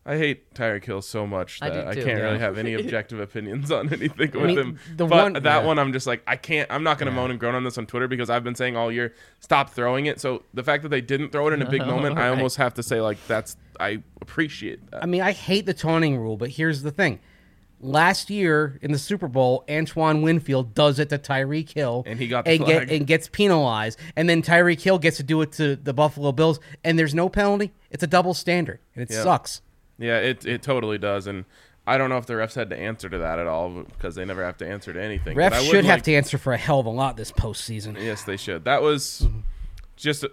I hate Tyreek Hill so much I that do I too, can't yeah. really have any objective opinions on anything with mean, him. the But one- that yeah. one, I'm just like, I can't. I'm not going to moan and groan on this on Twitter because I've been saying all year, stop throwing it. So the fact that they didn't throw it in a big moment, I Right. almost have to say like I appreciate that. I mean, I hate the taunting rule, but here's the thing. Last year in the Super Bowl, Antoine Winfield does it to Tyreek Hill. And he got the flag. and gets penalized. And then Tyreek Hill gets to do it to the Buffalo Bills, and there's no penalty. It's a double standard, and it Yeah. sucks. Yeah, it totally does, and I don't know if the refs had to answer to that at all because they never have to answer to anything. But I Refs would should have like- to answer for a hell of a lot this postseason. Yes, they should. That was just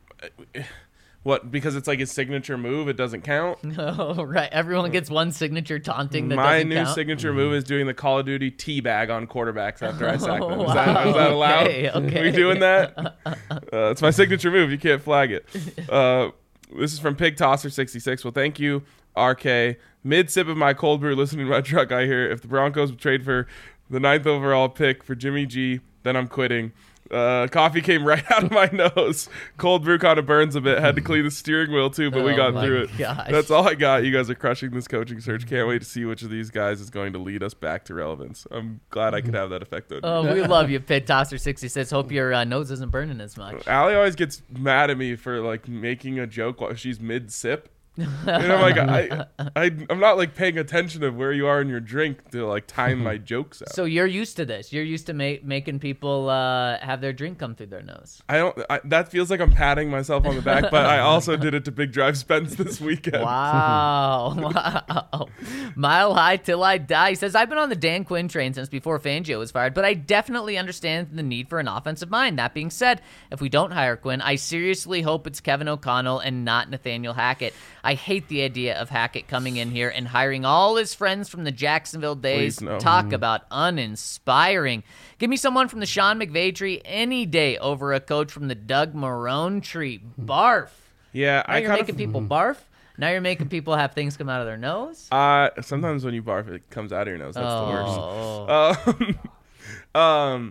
what, because it's like his signature move. It doesn't count. Oh, right. Everyone gets one signature taunting that My doesn't new count. signature move is doing the Call of Duty teabag on quarterbacks after I sack them. Oh, Is that allowed? okay. We doing that? It's my signature move. You can't flag it. This is from Pig Tosser 66. Well, thank you, RK. Mid sip of my cold brew, listening to my truck, I hear if the Broncos would trade for the 9th overall pick for Jimmy G, then I'm quitting. Coffee came right out of my nose. Cold brew kind of burns a bit. Had to clean the steering wheel too, but we Oh got my through it. gosh. That's all I got. You guys are crushing this coaching search. Can't wait to see which of these guys is going to lead us back to relevance. I'm glad I could have that effect on you. Oh, we love you, Pit Tosser 66. Hope your nose isn't burning as much. Allie always gets mad at me for like making a joke while she's mid sip. And I'm like, I'm not like paying attention of where you are in your drink to like time my jokes out. So you're used to this. You're used to making people have their drink come through their nose. That feels like I'm patting myself on the back, but I also did it to Big Drive Spence this weekend. Wow. Wow. Mile high till I die. He says, I've been on the Dan Quinn train since before Fangio was fired, but I definitely understand the need for an offensive mind. That being said, if we don't hire Quinn, I seriously hope it's Kevin O'Connell and not Nathaniel Hackett. I hate the idea of Hackett coming in here and hiring all his friends from the Jacksonville days. Please, no. Talk about uninspiring. Give me someone from the Sean McVay tree any day over a coach from the Doug Marrone tree. Barf. Yeah, Now you're making people barf. Now you're making people have things come out of their nose. Sometimes when you barf, it comes out of your nose. That's Oh. the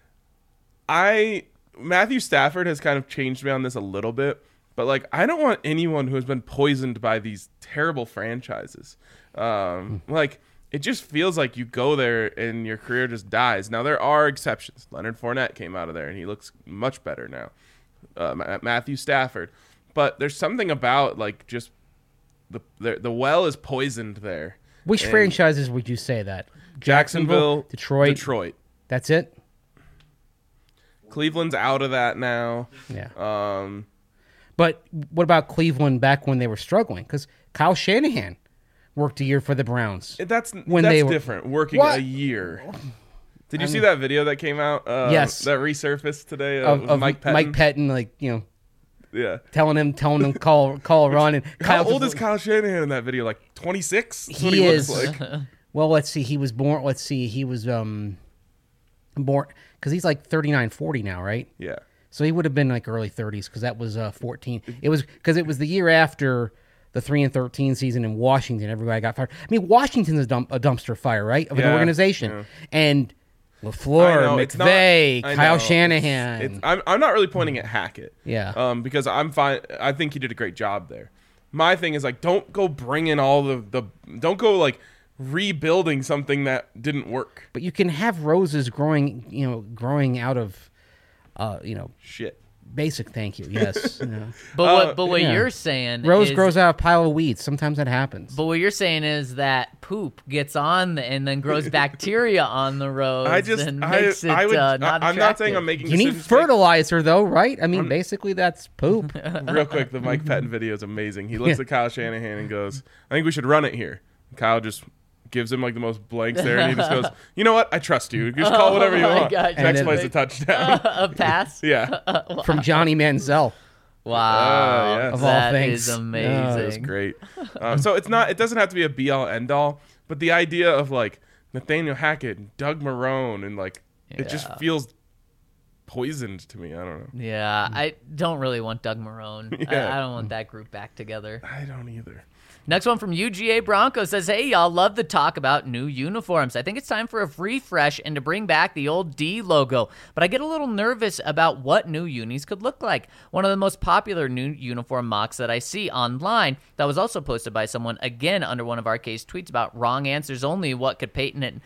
worst. Matthew Stafford has kind of changed me on this a little bit, but like I don't want anyone who has been poisoned by these terrible franchises. Like it just feels like you go there and your career just dies. Now there are exceptions. Leonard Fournette came out of there and he looks much better now. Matthew Stafford, but there's something about like just the well is poisoned there. Which And franchises would you say that? Jacksonville, Detroit. That's it? Cleveland's out of that now. Yeah. But what about Cleveland back when they were struggling? Because Kyle Shanahan worked a year for the Browns. That's When they were- different. Working What? a year. Did you see that video that came out? Yes. That resurfaced today Of Mike Pettin? Mike Pettin, like, Yeah. telling him call a run. And How Kyle old is Kyle Shanahan in that video? Like 26? That's what He looks is. like. Well, let's see. He was born. Let's see. He was born because he's like 39, 40 now, right? Yeah. So he would have been like early 30s because that was 14. It was because it was the year after the 3-13 season in Washington. Everybody got fired. I mean, Washington's a dumpster fire, right, of an Yeah, organization. yeah. And I LaFleur, know, it's not- McVay, I Kyle know. Shanahan. I'm not really pointing at Hackett. Yeah. Because I'm fine. I think he did a great job there. My thing is like, don't go bring in all don't go like rebuilding something that didn't work. But you can have roses growing out of, Shit. basic. Thank you. Yes. But what yeah. you're saying Rose is, grows out of a pile of weeds. Sometimes that happens. But what you're saying is that poop gets on and then grows bacteria on the rose and makes it not I'm not saying attractive. I'm making You need decisions fertilizer, though, right? I mean, basically, that's poop. Real quick, the Mike Pettin video is amazing. He looks at Kyle Shanahan and goes, I think we should run it here. Kyle just gives him like the most blank stare and he just goes, you know what? I trust you. Just call whatever you my want. gosh. Next And play's a then- touchdown. A pass? Yeah. From Johnny Manziel. Wow. yes. Of all That things. is Oh, amazing. It was great. So it doesn't have to be a be all end all, but the idea of like Nathaniel Hackett and Doug Marrone and like it just Yeah. feels poisoned to me. I don't know. Yeah, I don't really want Doug Marrone. Yeah. I don't want that group back together. I don't either. Next one from UGA Bronco says, hey, y'all, love the talk about new uniforms. I think it's time for a refresh and to bring back the old D logo, but I get a little nervous about what new unis could look like. One of the most popular new uniform mocks that I see online that was also posted by someone, again, under one of RK's tweets about wrong answers only, what could Peyton and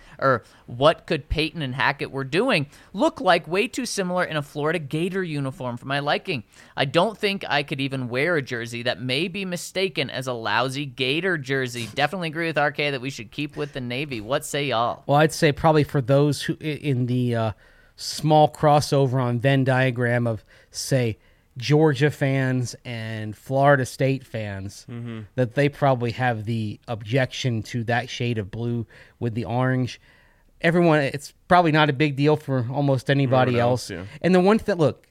Hackett were doing, look like way too similar in a Florida Gator uniform for my liking. I don't think I could even wear a jersey that may be mistaken as a lousy Gator jersey. Definitely agree with RK that we should keep with the Navy. What say y'all? Well, I'd say probably for those who in the small crossover on Venn diagram of, say, Georgia fans and Florida State fans, that they probably have the objection to that shade of blue with the orange. Everyone, it's probably not a big deal for almost anybody else. Yeah. And the one thing, look,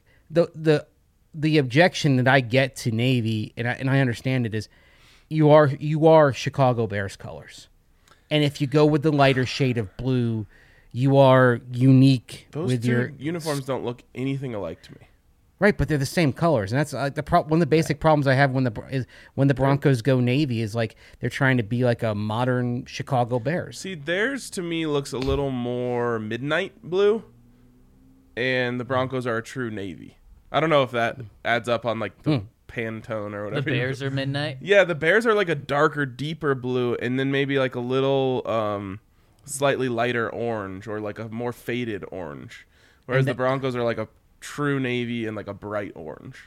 the objection that I get to Navy, and I understand it, is you are Chicago Bears colors, and if you go with the lighter shade of blue, you are unique. Those with two your uniforms don't look anything alike to me. right, but they're the same colors, and that's one of the basic problems I have when the Broncos go Navy is like they're trying to be like a modern Chicago Bears. See, theirs to me looks a little more midnight blue, and the Broncos are a true navy. I don't know if that adds up on like the Pantone or whatever. The Bears are midnight? Yeah, the Bears are like a darker, deeper blue, and then maybe like a little slightly lighter orange or like a more faded orange. Whereas the Broncos are like a true navy and like a bright orange.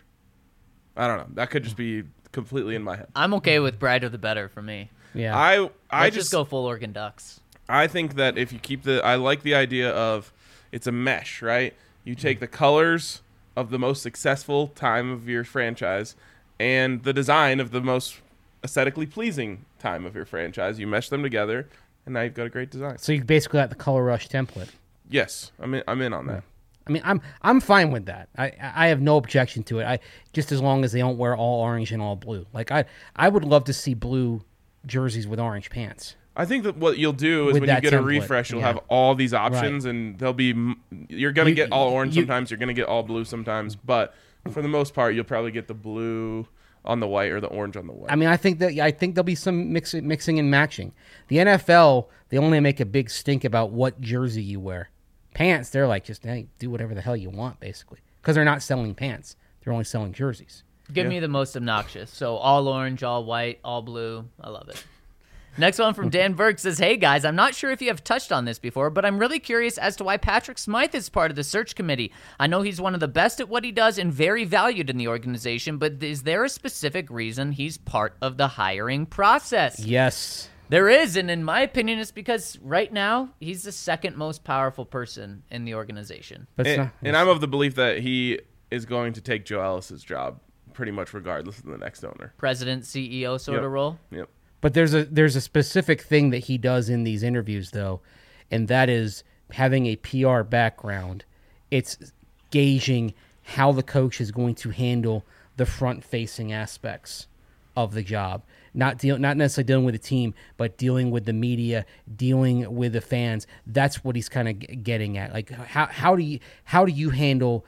I don't know. That could just be completely in my head. I'm okay with brighter the better for me. Yeah, I Let's just go full Oregon Ducks. I think that if you keep I like the idea of it's a mesh, right? You take the colors of the most successful time of your franchise and the design of the most aesthetically pleasing time of your franchise. You mesh them together, and now you've got a great design. so you basically got the Color Rush template. Yes, I'm in on that. I mean, I'm fine with that. I have no objection to it. Just as long as they don't wear all orange and all blue. Like I would love to see blue jerseys with orange pants. I think that what you'll do is With when you that get a template, refresh, you'll yeah. have all these options, and they'll be. You're gonna get all orange you- sometimes. You're gonna get all blue sometimes, but for the most part, you'll probably get the blue on the white or the orange on the white. I mean, I think there'll be some mixing and matching. The NFL, they only make a big stink about what jersey you wear. Pants, they're like just hey, do whatever the hell you want, basically, because they're not selling pants; they're only selling jerseys. Give me the most obnoxious. So all orange, all white, all blue. I love it. Next one from Dan Burke says, hey guys, I'm not sure if you have touched on this before, but I'm really curious as to why Patrick Smythe is part of the search committee. I know he's one of the best at what he does and very valued in the organization, but is there a specific reason he's part of the hiring process? Yes. There is, and in my opinion, it's because right now he's the second most powerful person in the organization. But it's and not, I'm of the belief that he is going to take Joe Ellis's job pretty much regardless of the next owner. President, CEO sort Yep. of role. Yep. But there's a specific thing that he does in these interviews, though, and that is having a PR background. It's gauging how the coach is going to handle the front-facing aspects of the job. Not necessarily dealing with the team, but dealing with the media, dealing with the fans. That's what he's kind of getting at. Like, how will you handle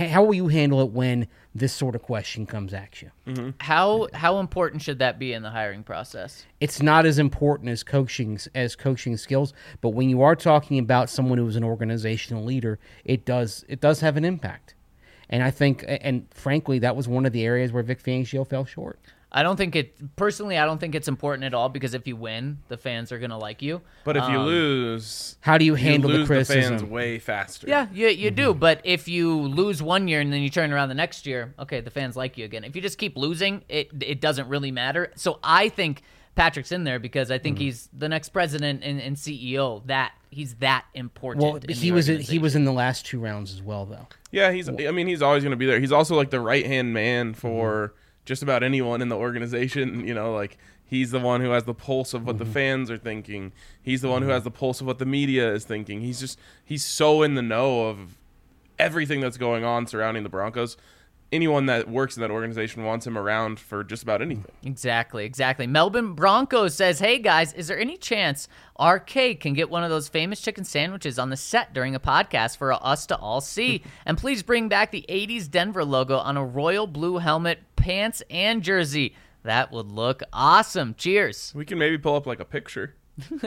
it when this sort of question comes at you? Mm-hmm. How important should that be in the hiring process? It's not as important as coaching skills, but when you are talking about someone who is an organizational leader, it does have an impact. And I think, and frankly, that was one of the areas where Vic Fangio fell short. I don't think it's important at all, because if you win, the fans are going to like you. But if you lose, How do you handle the lose criticism? the fans way faster. Yeah, you do. But if you lose one year and then you turn around the next year, okay, the fans like you again. If you just keep losing, it doesn't really matter. So I think Patrick's in there because I think he's the next president and CEO. He's that important. Well, in he was in the last two rounds as well, though. Yeah, he's always going to be there. He's also like the right-hand man for just about anyone in the organization. You know, like he's the one who has the pulse of what the fans are thinking. He's the one who has the pulse of what the media is thinking. He's so in the know of everything that's going on surrounding the Broncos. Anyone that works in that organization wants him around for just about anything. Exactly. Melbourne Broncos says, hey guys, is there any chance RK can get one of those famous chicken sandwiches on the set during a podcast for us to all see? And please bring back the 80s Denver logo on a royal blue helmet, pants, and jersey. That would look awesome. Cheers. We can maybe pull up like a picture.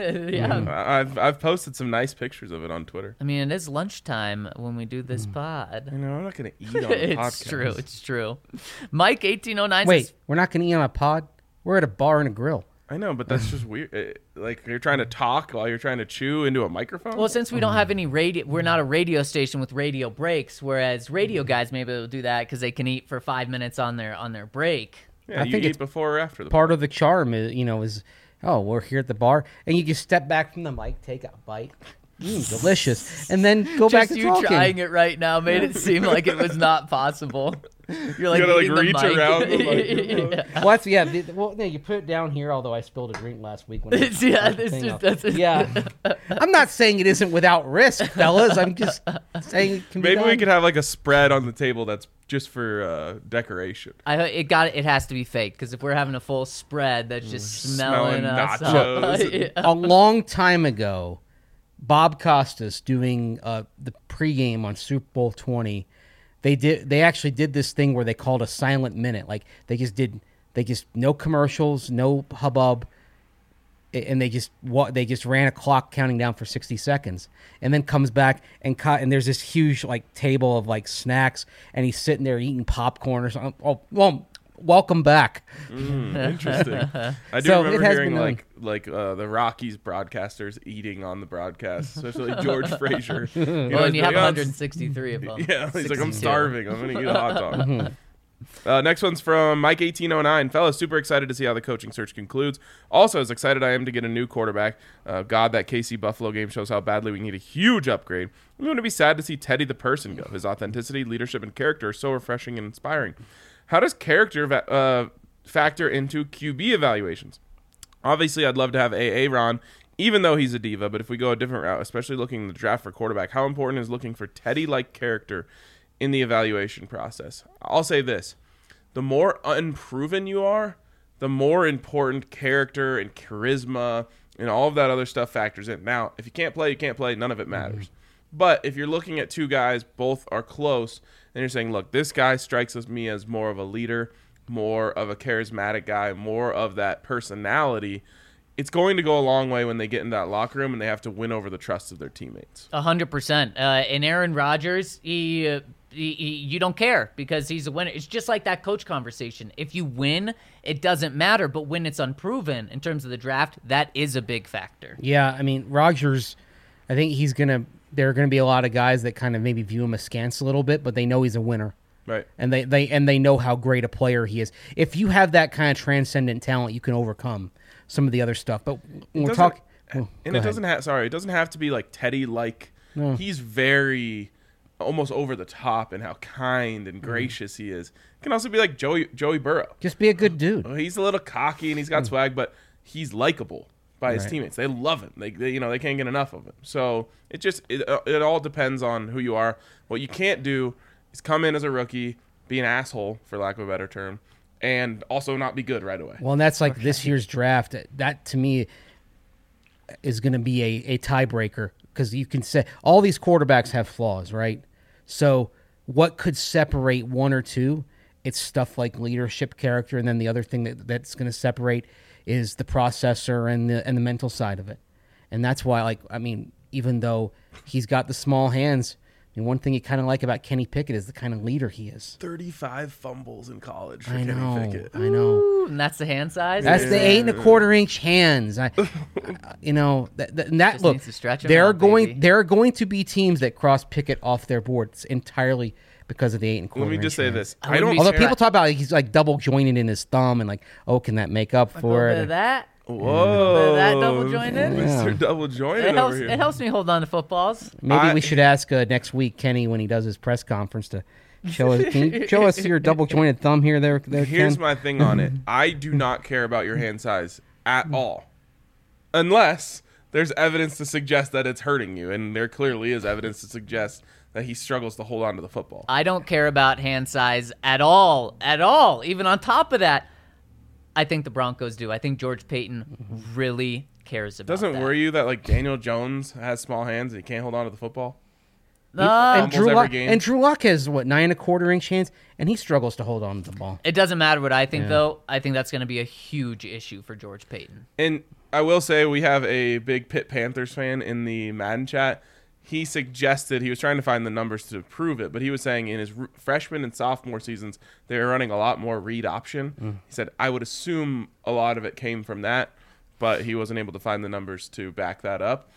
Yeah. I've posted some nice pictures of it on Twitter. I mean, it is lunchtime when we do this pod. You know, I'm not gonna eat on a It's podcast. true. It's true. Mike 1809 Wait, says, we're not going to eat on a pod? We're at a bar and a grill. I know, but that's just weird. Like you're trying to talk while you're trying to chew into a microphone. well, since we don't have any radio, we're not a radio station with radio breaks, whereas radio guys maybe will do that because they can eat for 5 minutes on their break. yeah, I you think eat it's before or after the Part of the charm is, oh, we're here at the bar. And you just step back from the mic, take a bite. Delicious. And then go back Just to you talking. trying it right now made it seem like it was not possible. You're like, You gotta, like, eating the reach mic. around the microphone. Yeah. Well, no, you put it down here, although I spilled a drink last week. When I Yeah, put the it's thing just- up. that's- yeah. I'm not saying it isn't without risk, fellas. I'm just saying it can be Maybe we done. could have like a spread on the table that's just for decoration. It has to be fake because if we're having a full spread, that's just smelling Smelling us nachos up. and- Yeah. A long time ago, Bob Costas doing the pregame on Super Bowl 20. They actually did this thing where they called a silent minute. Like they just no commercials, no hubbub, and they just ran a clock counting down for 60 seconds, and then comes back and there's this huge like table of like snacks, and he's sitting there eating popcorn or something. Oh, well, welcome back. Interesting. I do So, it remember has hearing been like the Rockies broadcasters eating on the broadcast, especially George Frazier. You know, Well, and you he's have like, 163 of them. Yeah, he's like, I'm 62. starving. I'm gonna eat a hot dog. Next one's from Mike 1809. Fellas, super excited to see how the coaching search concludes. Also, as excited I am to get a new quarterback. God, that KC Buffalo game shows how badly we need a huge upgrade. I'm going to be sad to see Teddy the person go. His authenticity, leadership, and character are so refreshing and inspiring. How does character factor into QB evaluations? Obviously, I'd love to have A.A. Ron, even though he's a diva, but if we go a different route, especially looking in the draft for quarterback, how important is looking for Teddy-like character in the evaluation process? I'll say this. The more unproven you are, the more important character and charisma and all of that other stuff factors in. Now, if you can't play, you can't play. None of it matters. But if you're looking at two guys, both are close, and you're saying, look, this guy strikes me as more of a leader, more of a charismatic guy, more of that personality, it's going to go a long way when they get in that locker room and they have to win over the trust of their teammates. 100%. And Aaron Rodgers, he you don't care because he's a winner. It's just like that coach conversation. If you win, it doesn't matter. But when it's unproven in terms of the draft, that is a big factor. Yeah, I mean, Rodgers, I think there are going to be a lot of guys that kind of maybe view him askance a little bit, but they know he's a winner. Right. And they know how great a player he is. If you have that kind of transcendent talent, you can overcome some of the other stuff. But when we're talking, it doesn't have to be like Teddy. Like he's very almost over the top in how kind and gracious he is. It can also be like Joey Burrow. just be a good dude. He's a little cocky and he's got swag, but he's likable by his Right. teammates. They love him. They can't get enough of him. So it all depends on who you are. What you can't do is come in as a rookie, be an asshole, for lack of a better term, and also not be good right away. Well, and that's like this year's draft. That to me is going to be a tiebreaker because you can say all these quarterbacks have flaws, right? So what could separate one or two? It's stuff like leadership, character, and then the other thing that's going to separate is the processor and the mental side of it. And that's why, even though he's got the small hands, I mean, one thing you kind of like about Kenny Pickett is the kind of leader he is. 35 fumbles in college for I Kenny know, Pickett. I know. Ooh, and that's the hand size? That's the 8 1/4-inch hands. And that Just look, needs to stretch 'em there out, are going baby. there are going to be teams that cross Pickett off their boards entirely because of the 8 1/4. Let me just say this. I I wouldn't don't. be Although sure. people talk about he's like double jointed in his thumb and like, oh, can that make up A for little bit it? of that. Whoa. That double jointed? Mr. Yeah. Double jointed It over here. helps me hold on to footballs. Maybe we should ask next week Kenny when he does his press conference to show us. Can you show us your double jointed thumb here? There. Here's Ken? my thing on it. I do not care about your hand size at all. Unless there's evidence to suggest that it's hurting you. And there clearly is evidence to suggest that he struggles to hold on to the football. I don't care about hand size at all. At all. Even on top of that, I think the Broncos do. I think George Payton really cares about Doesn't that. worry you that like Daniel Jones has small hands and he can't hold on to the football? And Fumbles every game. Drew Lock has, 9.25-inch hands, and he struggles to hold on to the ball. It doesn't matter what I think, though. I think that's going to be a huge issue for George Payton. And I will say we have a big Pitt Panthers fan in the Madden chat. He suggested, he was trying to find the numbers to prove it, but he was saying in his freshman and sophomore seasons, they were running a lot more read option. He said, I would assume a lot of it came from that, but he wasn't able to find the numbers to back that up.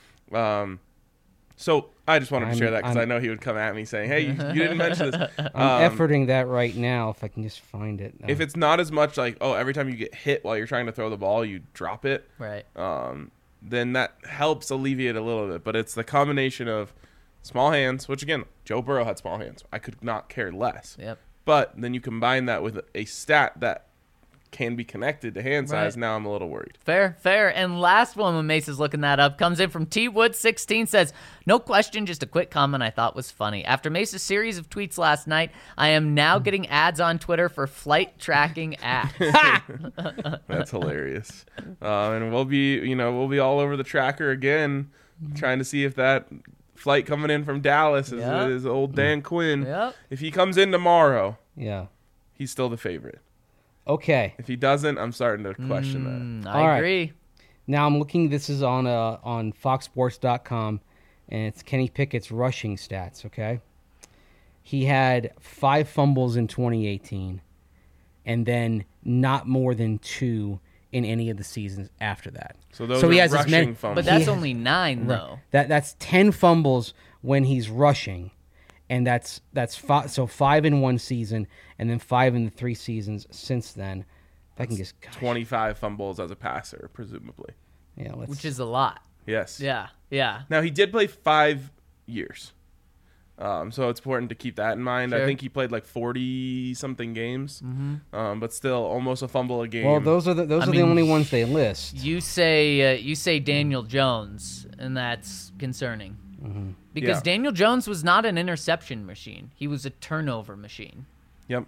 So I just wanted to share that because I know he would come at me saying, hey, you didn't mention this. I'm efforting that right now if I can just find it. If it's not as much like, every time you get hit while you're trying to throw the ball, you drop it. Right. Then that helps alleviate a little bit. But it's the combination of small hands, which, again, Joe Burrow had small hands. I could not care less. Yep. But then you combine that with a stat that can be connected to hand size. Now I'm a little worried. Fair. And last one when Mace is looking that up comes in from T-Wood16, says, no question, just a quick comment I thought was funny. After Mace's series of tweets last night, I am now getting ads on Twitter for flight tracking apps. That's hilarious. And we'll be all over the tracker again, trying to see if that flight coming in from Dallas is old Dan Quinn. Yep. If he comes in tomorrow, he's still the favorite. Okay. If he doesn't, I'm starting to question that. I agree. Now I'm looking. This is on FoxSports.com, and it's Kenny Pickett's rushing stats. Okay, he had 5 fumbles in 2018, and then not more than 2 in any of the seasons after that. So those are he has rushing fumbles. But that's only 9 though. That's 10 fumbles when he's rushing. And that's 5 in one season, and then 5 in the 3 seasons since then. If I can just 25 fumbles as a passer, presumably. Yeah, which is a lot. Yes. Yeah. Now he did play 5 years, so it's important to keep that in mind. Sure. I think he played like 40-something games, but still almost a fumble a game. Well, those are the only ones they list. You say Daniel Jones, and that's concerning. Because Daniel Jones was not an interception machine. He was a turnover machine. Yep.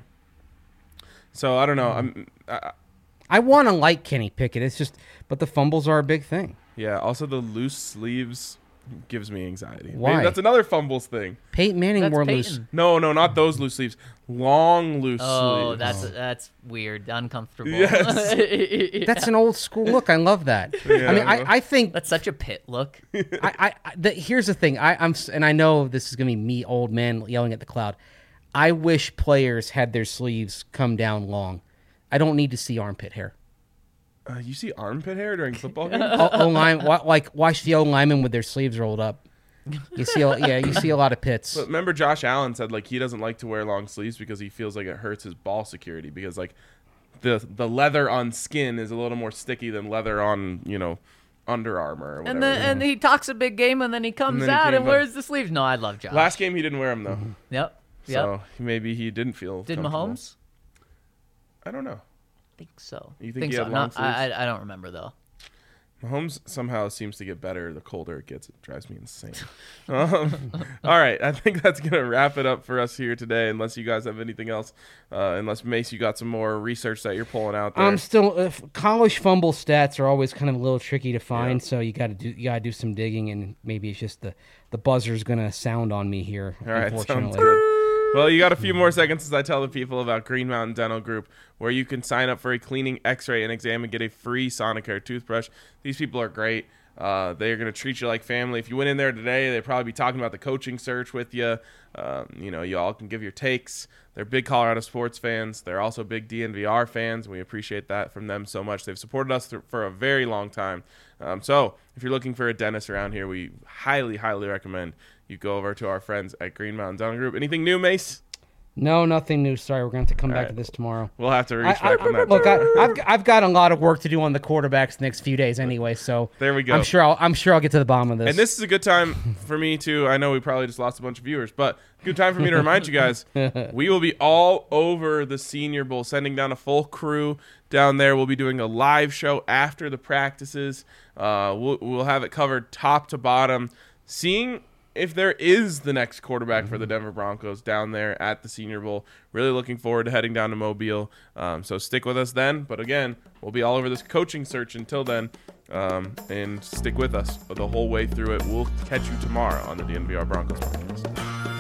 So I don't know. I want to like Kenny Pickett. But the fumbles are a big thing. Yeah. Also, the loose sleeves gives me anxiety. Why? Maybe that's another fumbles thing. Peyton Manning wore loose. No, not those loose sleeves. Long loose sleeves. Oh, that's weird. Uncomfortable. Yes. That's an old school look. I love that. Yeah, I think that's such a Pitt look. Here's the thing. And I know this is gonna be me, old man, yelling at the cloud. I wish players had their sleeves come down long. I don't need to see armpit hair. You see armpit hair during football games? Watch the O linemen with their sleeves rolled up. You see a lot of pits. But remember, Josh Allen said he doesn't like to wear long sleeves because he feels like it hurts his ball security because the leather on skin is a little more sticky than leather on Under Armour or whatever. And he talks a big game and then he comes out and wears the sleeves. No, I love Josh. Last game he didn't wear them though. Yep. So maybe he didn't feel. Did Mahomes? I don't know. I think so. You think he had long sleeves? I don't remember though. Mahomes somehow seems to get better the colder it gets. It drives me insane. All right. I think that's going to wrap it up for us here today, unless you guys have anything else. Unless, Mace, you got some more research that you're pulling out there. College fumble stats are always kind of a little tricky to find, so you got to do some digging, and maybe it's just the buzzer's going to sound on me here, all right, unfortunately. sounds good. Well, you got a few more seconds as I tell the people about Green Mountain Dental Group, where you can sign up for a cleaning, x-ray, and exam and get a free Sonicare toothbrush. These people are great. They're going to treat you like family. If you went in there today, they'd probably be talking about the coaching search with you. You all can give your takes. They're big Colorado sports fans. They're also big DNVR fans. We appreciate that from them so much. They've supported us for a very long time. So if you're looking for a dentist around here, we highly, highly recommend you go over to our friends at Green Mountain Dental Group. Anything new, Mace? No, nothing new. Sorry, we're going to have to come back to this tomorrow. We'll have to reach back on that. Look, I've got a lot of work to do on the quarterbacks the next few days anyway, so there we go. I'm sure I'll get to the bottom of this. And this is a good time for me to, I know we probably just lost a bunch of viewers, but good time for me to remind you guys, we will be all over the Senior Bowl, sending down a full crew down there. We'll be doing a live show after the practices. We'll have it covered top to bottom, seeing if there is the next quarterback for the Denver Broncos down there at the Senior Bowl. Really looking forward to heading down to Mobile. So stick with us then. But again, we'll be all over this coaching search until then. and stick with us the whole way through it. We'll catch you tomorrow on the DNVR Broncos podcast.